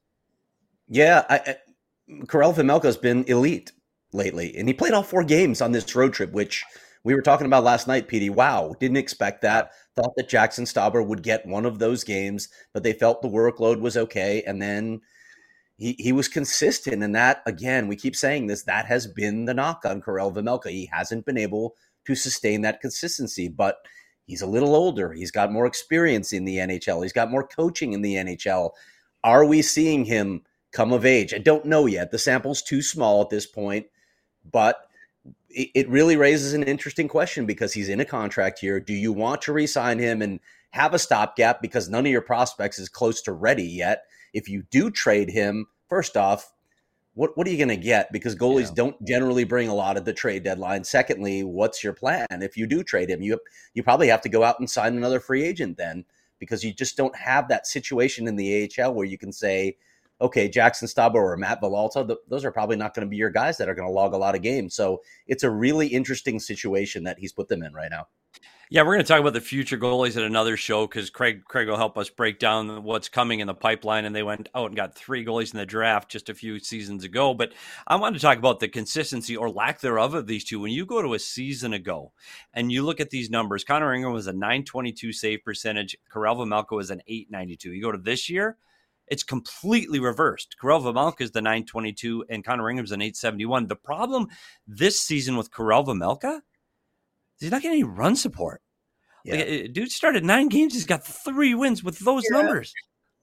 C: Yeah, Karel Vejmelka has been elite lately, and he played all 4 games on this road trip, which we were talking about last night, PD. Wow, didn't expect that. Thought that Jackson Stauber would get one of those games, but they felt the workload was okay, and then he was consistent. And that, again, we keep saying this, that has been the knock on Karel Vejmelka. He hasn't been able to sustain that consistency, but he's a little older. He's got more experience in the NHL. He's got more coaching in the NHL. Are we seeing him come of age? I don't know yet. The sample's too small at this point, but it really raises an interesting question because he's in a contract here. Do you want to re-sign him and have a stopgap because none of your prospects is close to ready yet? If you do trade him, first off, what are you going to get? Because goalies don't generally bring a lot at the trade deadline. Secondly, what's your plan? If you do trade him, you probably have to go out and sign another free agent then because you just don't have that situation in the AHL where you can say, okay, Jackson Stauber or Matt Villalta, those are probably not going to be your guys that are going to log a lot of games. So it's a really interesting situation that he's put them in right now.
A: Yeah, we're going to talk about the future goalies at another show because Craig will help us break down what's coming in the pipeline. And they went out and got 3 goalies in the draft just a few seasons ago. But I want to talk about the consistency or lack thereof of these two. When you go to a season ago and you look at these numbers, Connor Ingram was a .922 save percentage. Karel Vejmelka was an .892. You go to this year, it's completely reversed. Karel Vejmelka is the .922 and Connor Ingram's an .871. The problem this season with Karel Vejmelka, he's not getting any run support. Yeah. Like, dude started 9 games. He's got 3 wins with those numbers.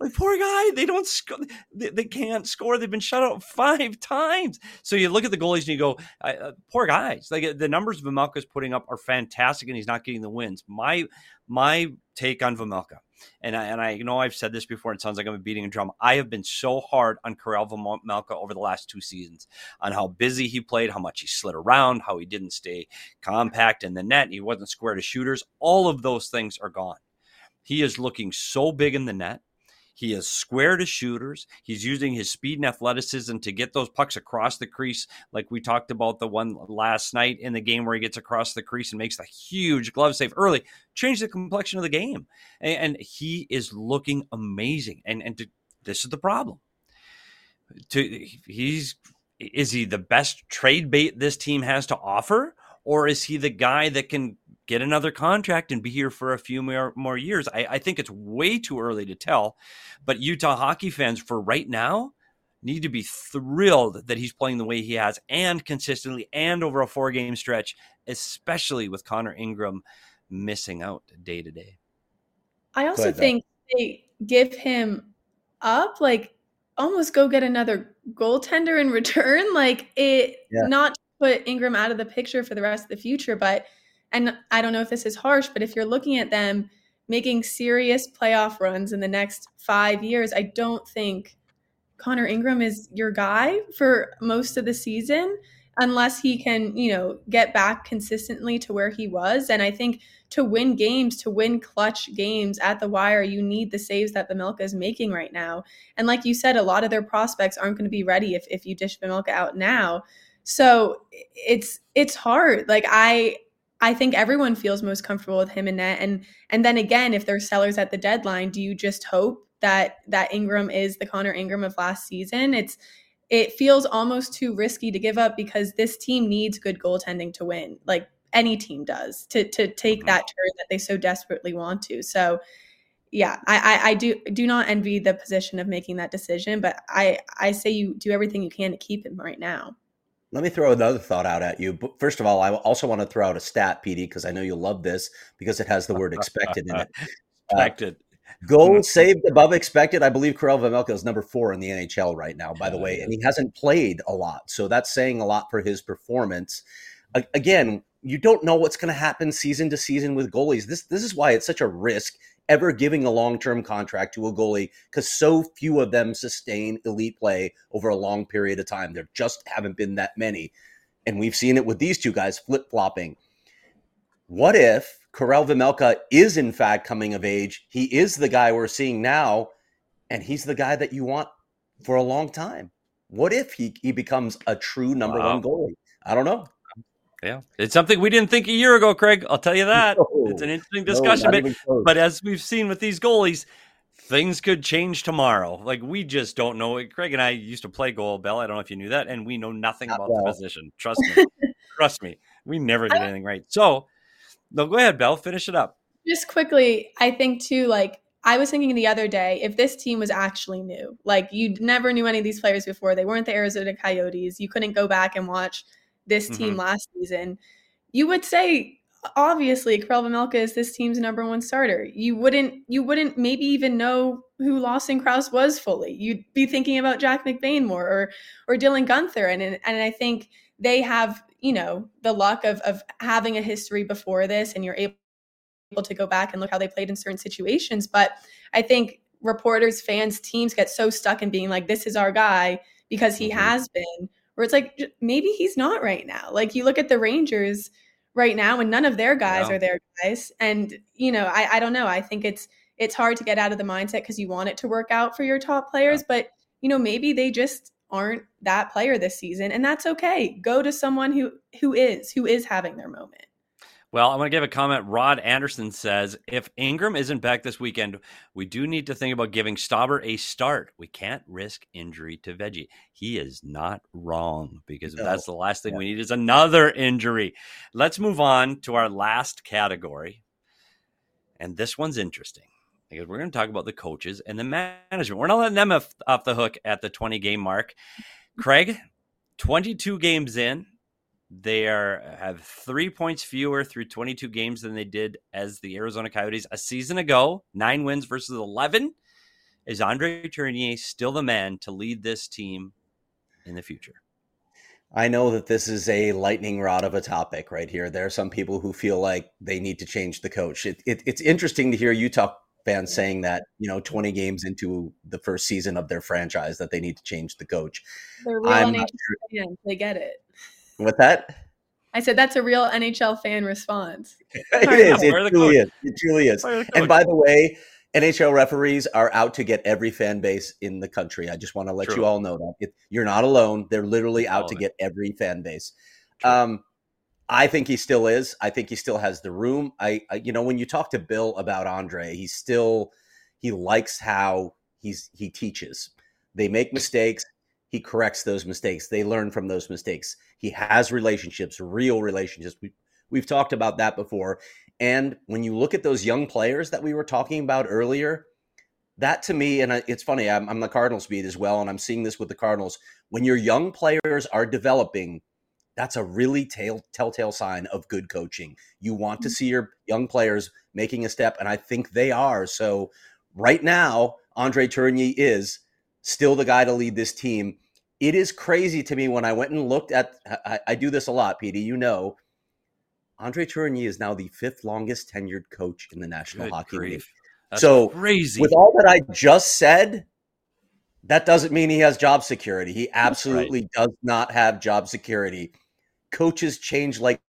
A: Like, poor guy, they don't score. They can't score. They've been shut out 5 times. So you look at the goalies and you go, poor guys. Like, the numbers Vejmelka's putting up are fantastic, and he's not getting the wins. My take on Vejmelka, and I know I've said this before, it sounds like I'm beating a drum. I have been so hard on Karel Vejmelka over the last 2 seasons on how busy he played, how much he slid around, how he didn't stay compact in the net, he wasn't square to shooters. All of those things are gone. He is looking so big in the net. He is square to shooters. He's using his speed and athleticism to get those pucks across the crease, like we talked about the one last night in the game where he gets across the crease and makes the huge glove save early, changed the complexion of the game. And he is looking amazing. This is the problem. Is he the best trade bait this team has to offer? Or is he the guy that can get another contract and be here for a few more years? I think it's way too early to tell, but Utah hockey fans for right now need to be thrilled that he's playing the way he has and consistently and over a 4-game stretch, especially with Connor Ingram missing out day to day.
B: I also think they give him up, like almost go get another goaltender in return. Not put Ingram out of the picture for the rest of the future, but and I don't know if this is harsh, but if you're looking at them making serious playoff runs in the next 5 years, I don't think Connor Ingram is your guy for most of the season unless he can, get back consistently to where he was. And I think to win games, to win clutch games at the wire, you need the saves that Vejmelka is making right now. And like you said, a lot of their prospects aren't going to be ready if you dish Vejmelka out now. So it's hard. Like I think everyone feels most comfortable with him in net. And then again, if there's sellers at the deadline, do you just hope that Ingram is the Connor Ingram of last season? It feels almost too risky to give up because this team needs good goaltending to win. Like any team does to take that turn that they so desperately want to. So yeah, I do not envy the position of making that decision, but I say you do everything you can to keep him right now.
C: Let me throw another thought out at you. But first of all, I also want to throw out a stat, PD, because I know you'll love this because it has the word expected in it.
A: Expected.
C: Goals saved above expected. I believe Karel Vejmelka is number 4 in the NHL right now, by the way, and he hasn't played a lot. So that's saying a lot for his performance. Again, you don't know what's going to happen season to season with goalies. This is why it's such a risk ever giving a long-term contract to a goalie, because so few of them sustain elite play over a long period of time. There just haven't been that many. And we've seen it with these two guys flip-flopping. What if Karel Vejmelka is in fact coming of age? He is the guy we're seeing now, and he's the guy that you want for a long time. What if he becomes a true number one goalie? I don't know.
A: Yeah, it's something we didn't think a year ago, Craig. I'll tell you that. It's an interesting discussion. But as we've seen with these goalies, things could change tomorrow. Like, we just don't know. Craig and I used to play goal, Bell. I don't know if you knew that. And we know nothing about the position. Trust me. Trust me. We never did anything right. So, no, go ahead, Bell. Finish it up.
B: Just quickly, I think, too, like, I was thinking the other day, if this team was actually new, like, you never knew any of these players before. They weren't the Arizona Coyotes. You couldn't go back and watch this team last season. You would say, obviously, Karel Vejmelka is this team's number one starter. You wouldn't maybe even know who Lawson Crouse was fully. You'd be thinking about Jack McBain more or Dylan Guenther. And I think they have, the luck of having a history before this, and you're able to go back and look how they played in certain situations. But I think reporters, fans, teams get so stuck in being like, this is our guy because he has been, where it's like, maybe he's not right now. Like, you look at the Rangers right now and none of their guys are their guys. And, I don't know. I think it's hard to get out of the mindset because you want it to work out for your top players, but maybe they just aren't that player this season, and that's okay. Go to someone who is having their moment.
A: Well, I want to give a comment. Rod Anderson says, if Ingram isn't back this weekend, we do need to think about giving Stauber a start. We can't risk injury to Veggie. He is not wrong, because that's the last thing we need is another injury. Let's move on to our last category. And this one's interesting because we're going to talk about the coaches and the management. We're not letting them off the hook at the 20-game mark. Craig, 22 games in. They have 3 points fewer through 22 games than they did as the Arizona Coyotes a season ago. 9 wins versus 11. Is Andre Tourigny still the man to lead this team in the future?
C: I know that this is a lightning rod of a topic right here. There are some people who feel like they need to change the coach. It's interesting to hear Utah fans saying that, 20 games into the first season of their franchise, that they need to change the coach.
B: They're real NHL fans. They get it.
C: What's that?
B: I said that's a real NHL fan response.
C: It is. It truly is. And by the way, NHL referees are out to get every fan base in the country. I just want to let you all know that. You're not alone. They're literally out to get every fan base. I think he still is. I think he still has the room. When you talk to Bill about Andre, he likes how he teaches. They make mistakes. He corrects those mistakes. They learn from those mistakes. He has relationships, real relationships. We've talked about that before. And when you look at those young players that we were talking about earlier, that to me, and it's funny, I'm the Cardinals beat as well, and I'm seeing this with the Cardinals. When your young players are developing, that's a really telltale sign of good coaching. You want to see your young players making a step, and I think they are. So right now, Andre Tourigny is still the guy to lead this team. It is crazy to me when I went and looked at, I do this a lot, Petey, Andre Tourigny is now the 5th longest tenured coach in the National Hockey League.
A: That's
C: so
A: crazy.
C: With all that I just said, that doesn't mean he has job security. He absolutely does not have job security. Coaches change like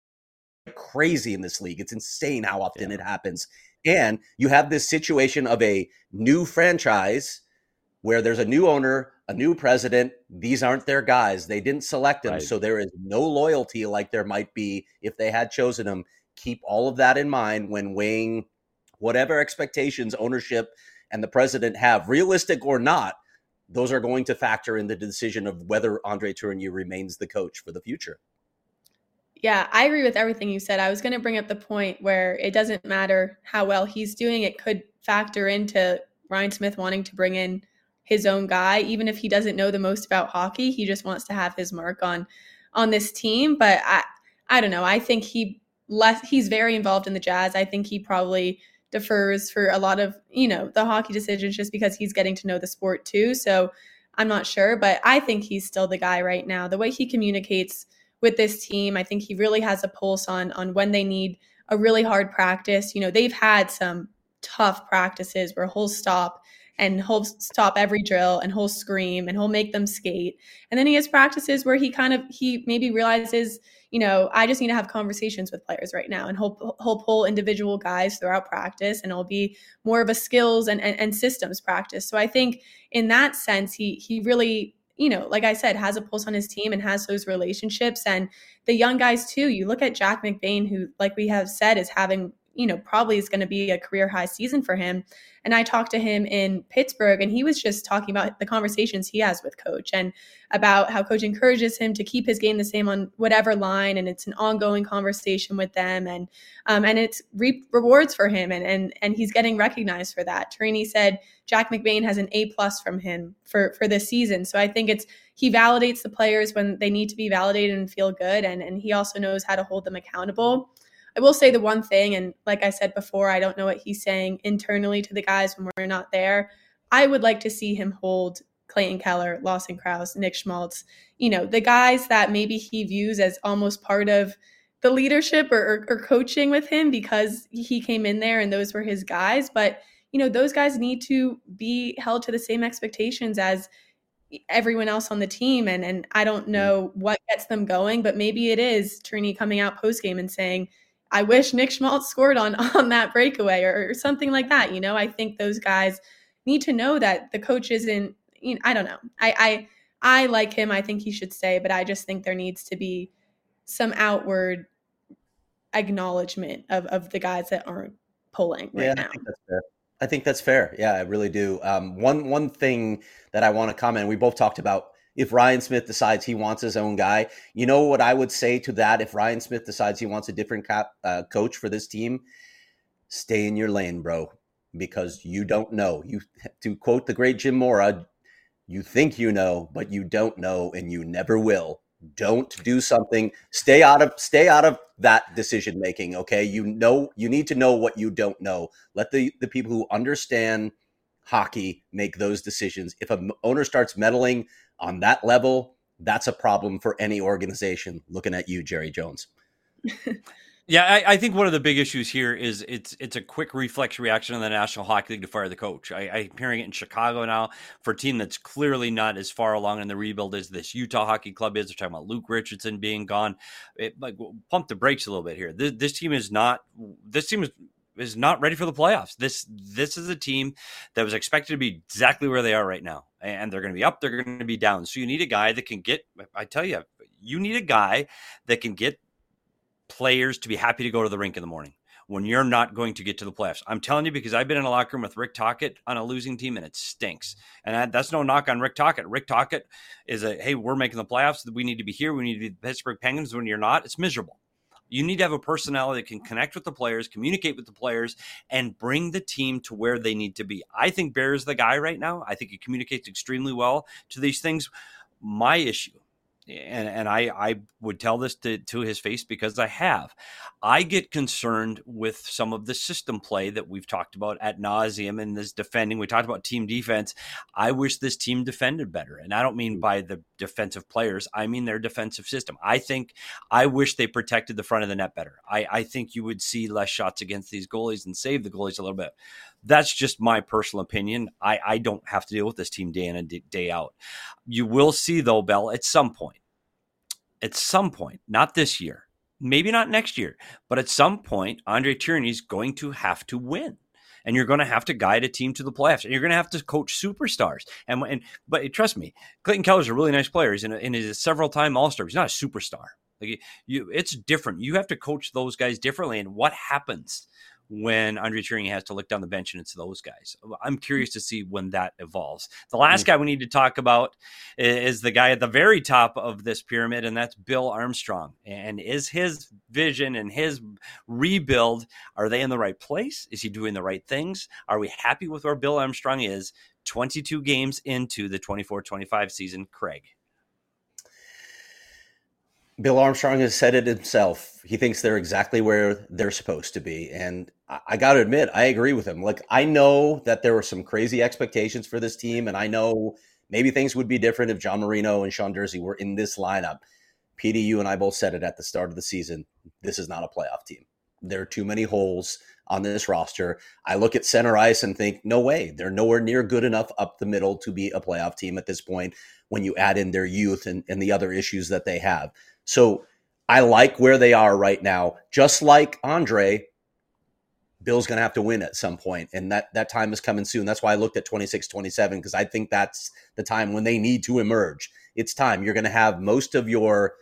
C: crazy in this league. It's insane how often it happens. And you have this situation of a new franchise where there's a new owner, a new president. These aren't their guys. They didn't select them. So there is no loyalty like there might be if they had chosen them. Keep all of that in mind when weighing whatever expectations ownership and the president have, realistic or not. Those are going to factor in the decision of whether Andre Tourigny remains the coach for the future.
B: Yeah, I agree with everything you said. I was going to bring up the point where it doesn't matter how well he's doing. It could factor into Ryan Smith wanting to bring in his own guy, even if he doesn't know the most about hockey. He just wants to have his mark on this team. But I don't know. I think he's very involved in the Jazz. I think he probably defers for a lot of, the hockey decisions just because he's getting to know the sport too. So I'm not sure, but I think he's still the guy right now. The way he communicates with this team, I think he really has a pulse on when they need a really hard practice. They've had some tough practices where he'll stop every drill and he'll scream and he'll make them skate. And then he has practices where he maybe realizes, I just need to have conversations with players right now. And he'll pull individual guys throughout practice, and it'll be more of a skills and systems practice. So I think in that sense, he really, like I said, has a pulse on his team and has those relationships. And the young guys too, you look at Jack McBain, who, like we have said, is having, probably is going to be a career high season for him. And I talked to him in Pittsburgh, and he was just talking about the conversations he has with coach and about how coach encourages him to keep his game the same on whatever line. And it's an ongoing conversation with them, and it's rewards for him. And he's getting recognized for that. Tourigny said Jack McBain has an A+ from him for this season. So I think he validates the players when they need to be validated and feel good. And he also knows how to hold them accountable. I will say the one thing, and like I said before, I don't know what he's saying internally to the guys when we're not there. I would like to see him hold Clayton Keller, Lawson Krause, Nick Schmaltz, the guys that maybe he views as almost part of the leadership or coaching with him because he came in there and those were his guys. But, those guys need to be held to the same expectations as everyone else on the team. And I don't know what gets them going, but maybe it is Tourigny coming out post-game and saying, I wish Nick Schmaltz scored on that breakaway or something like that. I think those guys need to know that the coach isn't, I don't know. I like him. I think he should stay, but I just think there needs to be some outward acknowledgement of the guys that aren't pulling right now.
C: I think that's fair. Yeah, I really do. One thing that I want to comment, we both talked about, if Ryan Smith decides he wants his own guy, what I would say to that? If Ryan Smith decides he wants a different coach for this team, stay in your lane, bro, because you don't know. To quote the great Jim Mora, you think you know, but you don't know, and you never will. Don't do something. Stay out of that decision making. Okay, you need to know what you don't know. Let the people who understand hockey make those decisions. If an owner starts meddling on that level, that's a problem for any organization. Looking at you, Jerry Jones.
A: Yeah, I think one of the big issues here is it's a quick reflex reaction in the National Hockey League to fire the coach. I'm hearing it in Chicago now for a team that's clearly not as far along in the rebuild as this Utah Hockey Club is. They're talking about Luke Richardson being gone. Pump the brakes a little bit here. This team is not ready for the playoffs. This is a team that was expected to be exactly where they are right now, and they're going to be up. They're going to be down. So you need a guy that can get. I tell you, you need a guy that can get players to be happy to go to the rink in the morning when you're not going to get to the playoffs. I'm telling you, because I've been in a locker room with Rick Tocchet on a losing team, and it stinks. And that's no knock on Rick Tocchet. Rick Tocchet is hey, we're making the playoffs. We need to be here. We need to be the Pittsburgh Penguins. When you're not, it's miserable. You need to have a personality that can connect with the players, communicate with the players, and bring the team to where they need to be. I think Bear is the guy right now. I think he communicates extremely well to these things. My issue, and I would tell this to his face because I get concerned with some of the system play that we've talked about ad nauseum in this defending. We talked about team defense. I wish this team defended better. And I don't mean by the defensive players. I mean their defensive system. I wish they protected the front of the net better. I think you would see less shots against these goalies and save the goalies a little bit. That's just my personal opinion. I don't have to deal with this team day in and day out. You will see, though, Bell, at some point, not this year, maybe not next year, but at some point, Andre Tierney's going to have to win. And you're going to have to guide a team to the playoffs. And you're going to have to coach superstars. But trust me, Clayton Keller's a really nice player. He's a several-time All-Star. He's not a superstar. It's different. You have to coach those guys differently. And what happens when Andre Tierney has to look down the bench and it's those guys? I'm curious to see when that evolves. The last guy we need to talk about is the guy at the very top of this pyramid, and that's Bill Armstrong. And is his vision and his rebuild, are they in the right place? Is he doing the right things? Are we happy with where Bill Armstrong is 22 games into the 24-25 season? Craig.
C: Bill Armstrong has said it himself. He thinks they're exactly where they're supposed to be. And I got to admit, I agree with him. Like, I know that there were some crazy expectations for this team, and I know maybe things would be different if John Marino and Sean Durzi were in this lineup. Petey, you and I both said it at the start of the season. This is not a playoff team. There are too many holes on this roster. I look at center ice and think, no way. They're nowhere near good enough up the middle to be a playoff team at this point when you add in their youth and the other issues that they have. So I like where they are right now. Just like Andre, Bill's going to have to win at some point, and that time is coming soon. That's why I looked at 26-27, because I think that's the time when they need to emerge. It's time. You're going to have most of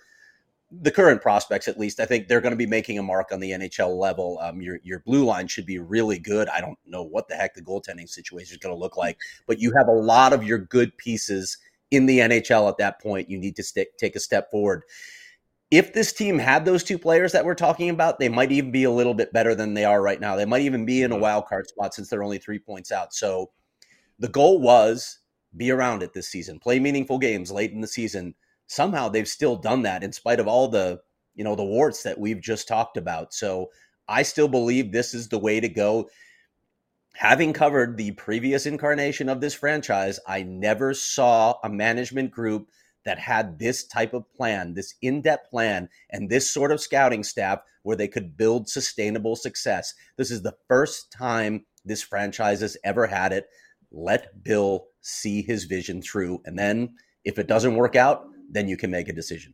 C: the current prospects, at least. I think they're going to be making a mark on the NHL level. Your blue line should be really good. I don't know what the heck the goaltending situation is going to look like, but you have a lot of your good pieces in the NHL at that point. You need to take a step forward. If this team had those two players that we're talking about, they might even be a little bit better than they are right now. They might even be in a wild card spot since they're only 3 points out. So the goal was be around it this season, play meaningful games late in the season. Somehow they've still done that in spite of all the warts that we've just talked about. So I still believe this is the way to go. Having covered the previous incarnation of this franchise, I never saw a management group that had this type of plan, this in-depth plan, and this sort of scouting staff where they could build sustainable success. This is the first time this franchise has ever had it. Let Bill see his vision through. And then if it doesn't work out, then you can make a decision.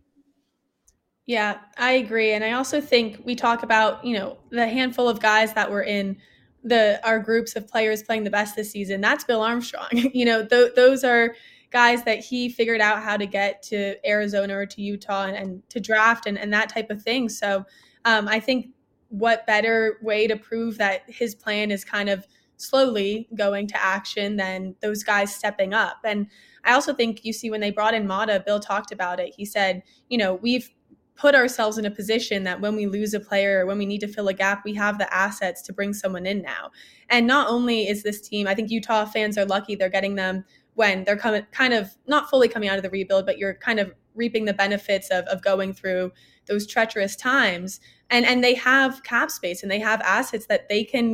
B: Yeah, I agree. And I also think we talk about, the handful of guys that were in our groups of players playing the best this season. That's Bill Armstrong. Those are guys that he figured out how to get to Arizona or to Utah and to draft and that type of thing. So I think what better way to prove that his plan is kind of slowly going to action than those guys stepping up. And I also think you see when they brought in Mata, Bill talked about it. He said, we've put ourselves in a position that when we lose a player or when we need to fill a gap, we have the assets to bring someone in now. And not only is this team, I think Utah fans are lucky they're getting them when they're kind of not fully coming out of the rebuild, but you're kind of reaping the benefits of going through those treacherous times. And they have cap space and they have assets that they can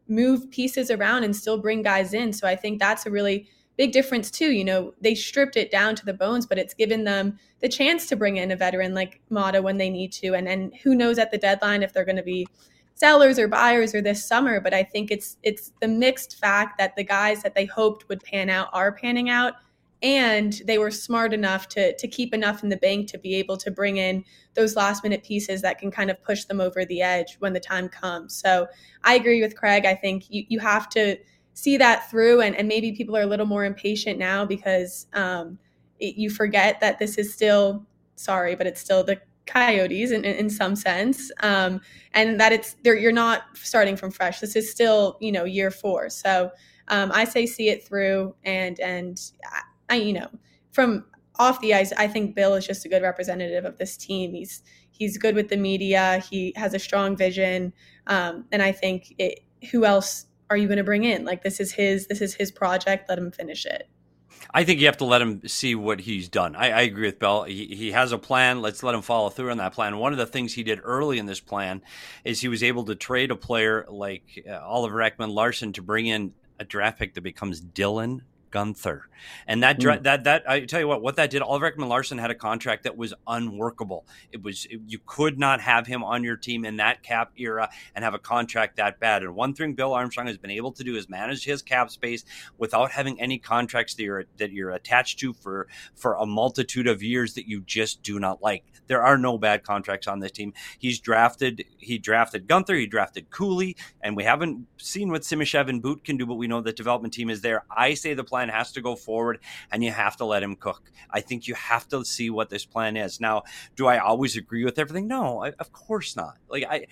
B: move pieces around and still bring guys in. So I think that's a really big difference too. You know, they stripped it down to the bones, but it's given them the chance to bring in a veteran like Mata when they need to. And who knows at the deadline if they're going to be sellers or buyers or this summer. But I think it's the mixed fact that the guys that they hoped would pan out are panning out. And they were smart enough to keep enough in the bank to be able to bring in those last minute pieces that can kind of push them over the edge when the time comes. So I agree with Craig. I think you have to see that through, and maybe people are a little more impatient now because you forget that this is still, sorry, but it's still the Coyotes in some sense, and that you're not starting from fresh. This is still, you know, year 4. So I say see it through, and I, you know, from off the ice, I think Bill is just a good representative of this team. He's good with the media. He has a strong vision, and I think who else are you going to bring in? Like, this is his project. Let him finish it.
A: I think you have to let him see what he's done. I agree with Bill. He has a plan. Let's let him follow through on that plan. One of the things he did early in this plan is he was able to trade a player like Oliver Ekman-Larsson to bring in a draft pick that becomes Dylan Guenther. And that I tell you what that did, Oliver Ekman-Larsson had a contract that was unworkable. You could not have him on your team in that cap era and have a contract that bad. And one thing Bill Armstrong has been able to do is manage his cap space without having any contracts that you're attached to for a multitude of years that you just do not like. There are no bad contracts on this team. He drafted Guenther, he drafted Cooley, and we haven't seen what Simashev and Boot can do, but we know the development team is there. I say the plan has to go forward, and you have to let him cook. I think you have to see what this plan is. Now, do I always agree with everything? No, of course not. We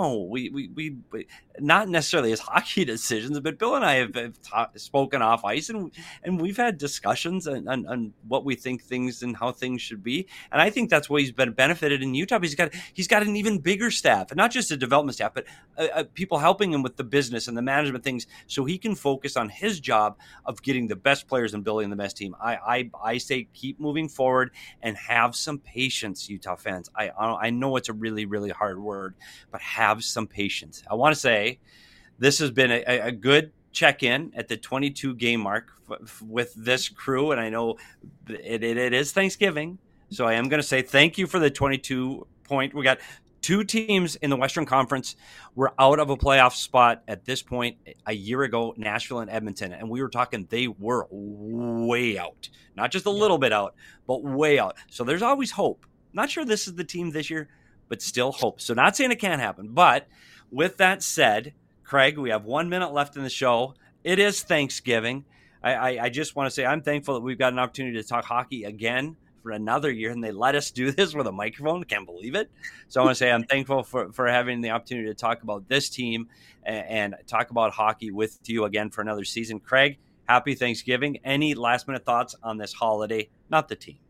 A: not necessarily his hockey decisions, but Bill and I have spoken off ice, and we've had discussions on what we think things and how things should be. And I think that's why he's been benefited in Utah. He's got an even bigger staff, and not just a development staff, but people helping him with the business and the management things, so he can focus on his job of getting the best players and building the best team. I say keep moving forward and have some patience, Utah fans. I know it's a really, really hard word, but have some patience. I want to say this has been a good check-in at the 22 game mark with this crew, and I know it is Thanksgiving, so I am going to say thank you for the 22 point. We got 2 teams in the Western Conference were out of a playoff spot at this point a year ago, Nashville and Edmonton. And we were talking they were way out, not just a little bit out, but way out. So there's always hope. Not sure this is the team this year, but still hope. So not saying it can't happen. But with that said, Craig, we have 1 minute left in the show. It is Thanksgiving. I just want to say I'm thankful that we've got an opportunity to talk hockey again for another year, and they let us do this with a microphone. Can't believe it. So I want to say I'm thankful for having the opportunity to talk about this team and talk about hockey with you again for another season. Craig, happy Thanksgiving. Any last minute thoughts on this holiday? Not the team.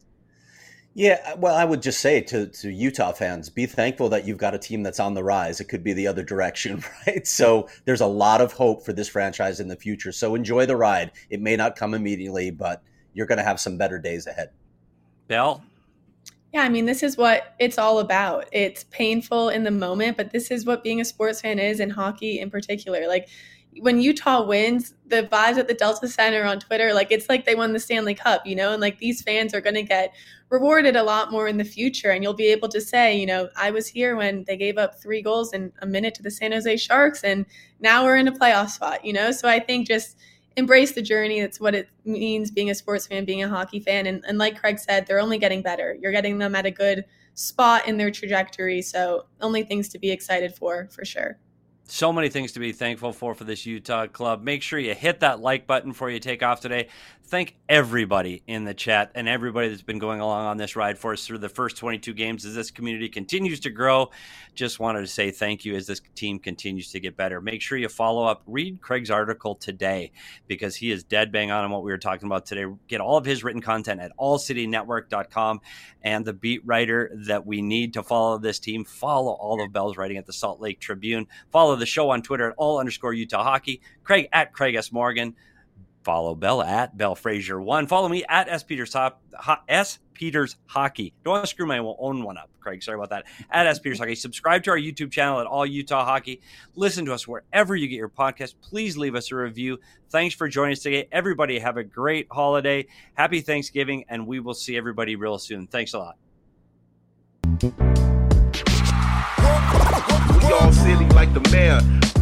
C: Yeah, well, I would just say to Utah fans, be thankful that you've got a team that's on the rise. It could be the other direction, right? So there's a lot of hope for this franchise in the future. So enjoy the ride. It may not come immediately, but you're going to have some better days ahead.
A: Bill?
B: Yeah, I mean, this is what it's all about. It's painful in the moment, but this is what being a sports fan is, in hockey in particular. Like, when Utah wins, the vibes at the Delta Center on Twitter, like, it's like they won the Stanley Cup, you know? And, like, these fans are going to get rewarded a lot more in the future. And you'll be able to say, you know, I was here when they gave up 3 goals in a minute to the San Jose Sharks, and now we're in a playoff spot, you know? So I think just embrace the journey. That's what it means being a sports fan, being a hockey fan. And like Craig said, they're only getting better. You're getting them at a good spot in their trajectory. So only things to be excited for sure.
A: So many things to be thankful for this Utah club. Make sure you hit that like button before you take off today. Thank everybody in the chat and everybody that's been going along on this ride for us through the first 22 games as this community continues to grow. Just wanted to say thank you as this team continues to get better. Make sure you follow up. Read Craig's article today because he is dead bang on what we were talking about today. Get all of his written content at allcitynetwork.com, and the beat writer that we need to follow this team. Follow all of Bell's writing at the Salt Lake Tribune. Follow the show on Twitter at @all_Utah Hockey. Craig at Craig S. Morgan. Follow Bell at BellFrazier1. Follow me at S Peters Hockey. Don't want to screw my own one up, Craig. Sorry about that. At S Peters Hockey. Subscribe to our YouTube channel at All Utah Hockey. Listen to us wherever you get your podcast. Please leave us a review. Thanks for joining us today. Everybody have a great holiday. Happy Thanksgiving, and we will see everybody real soon. Thanks a lot.
E: We all silly like the mayor.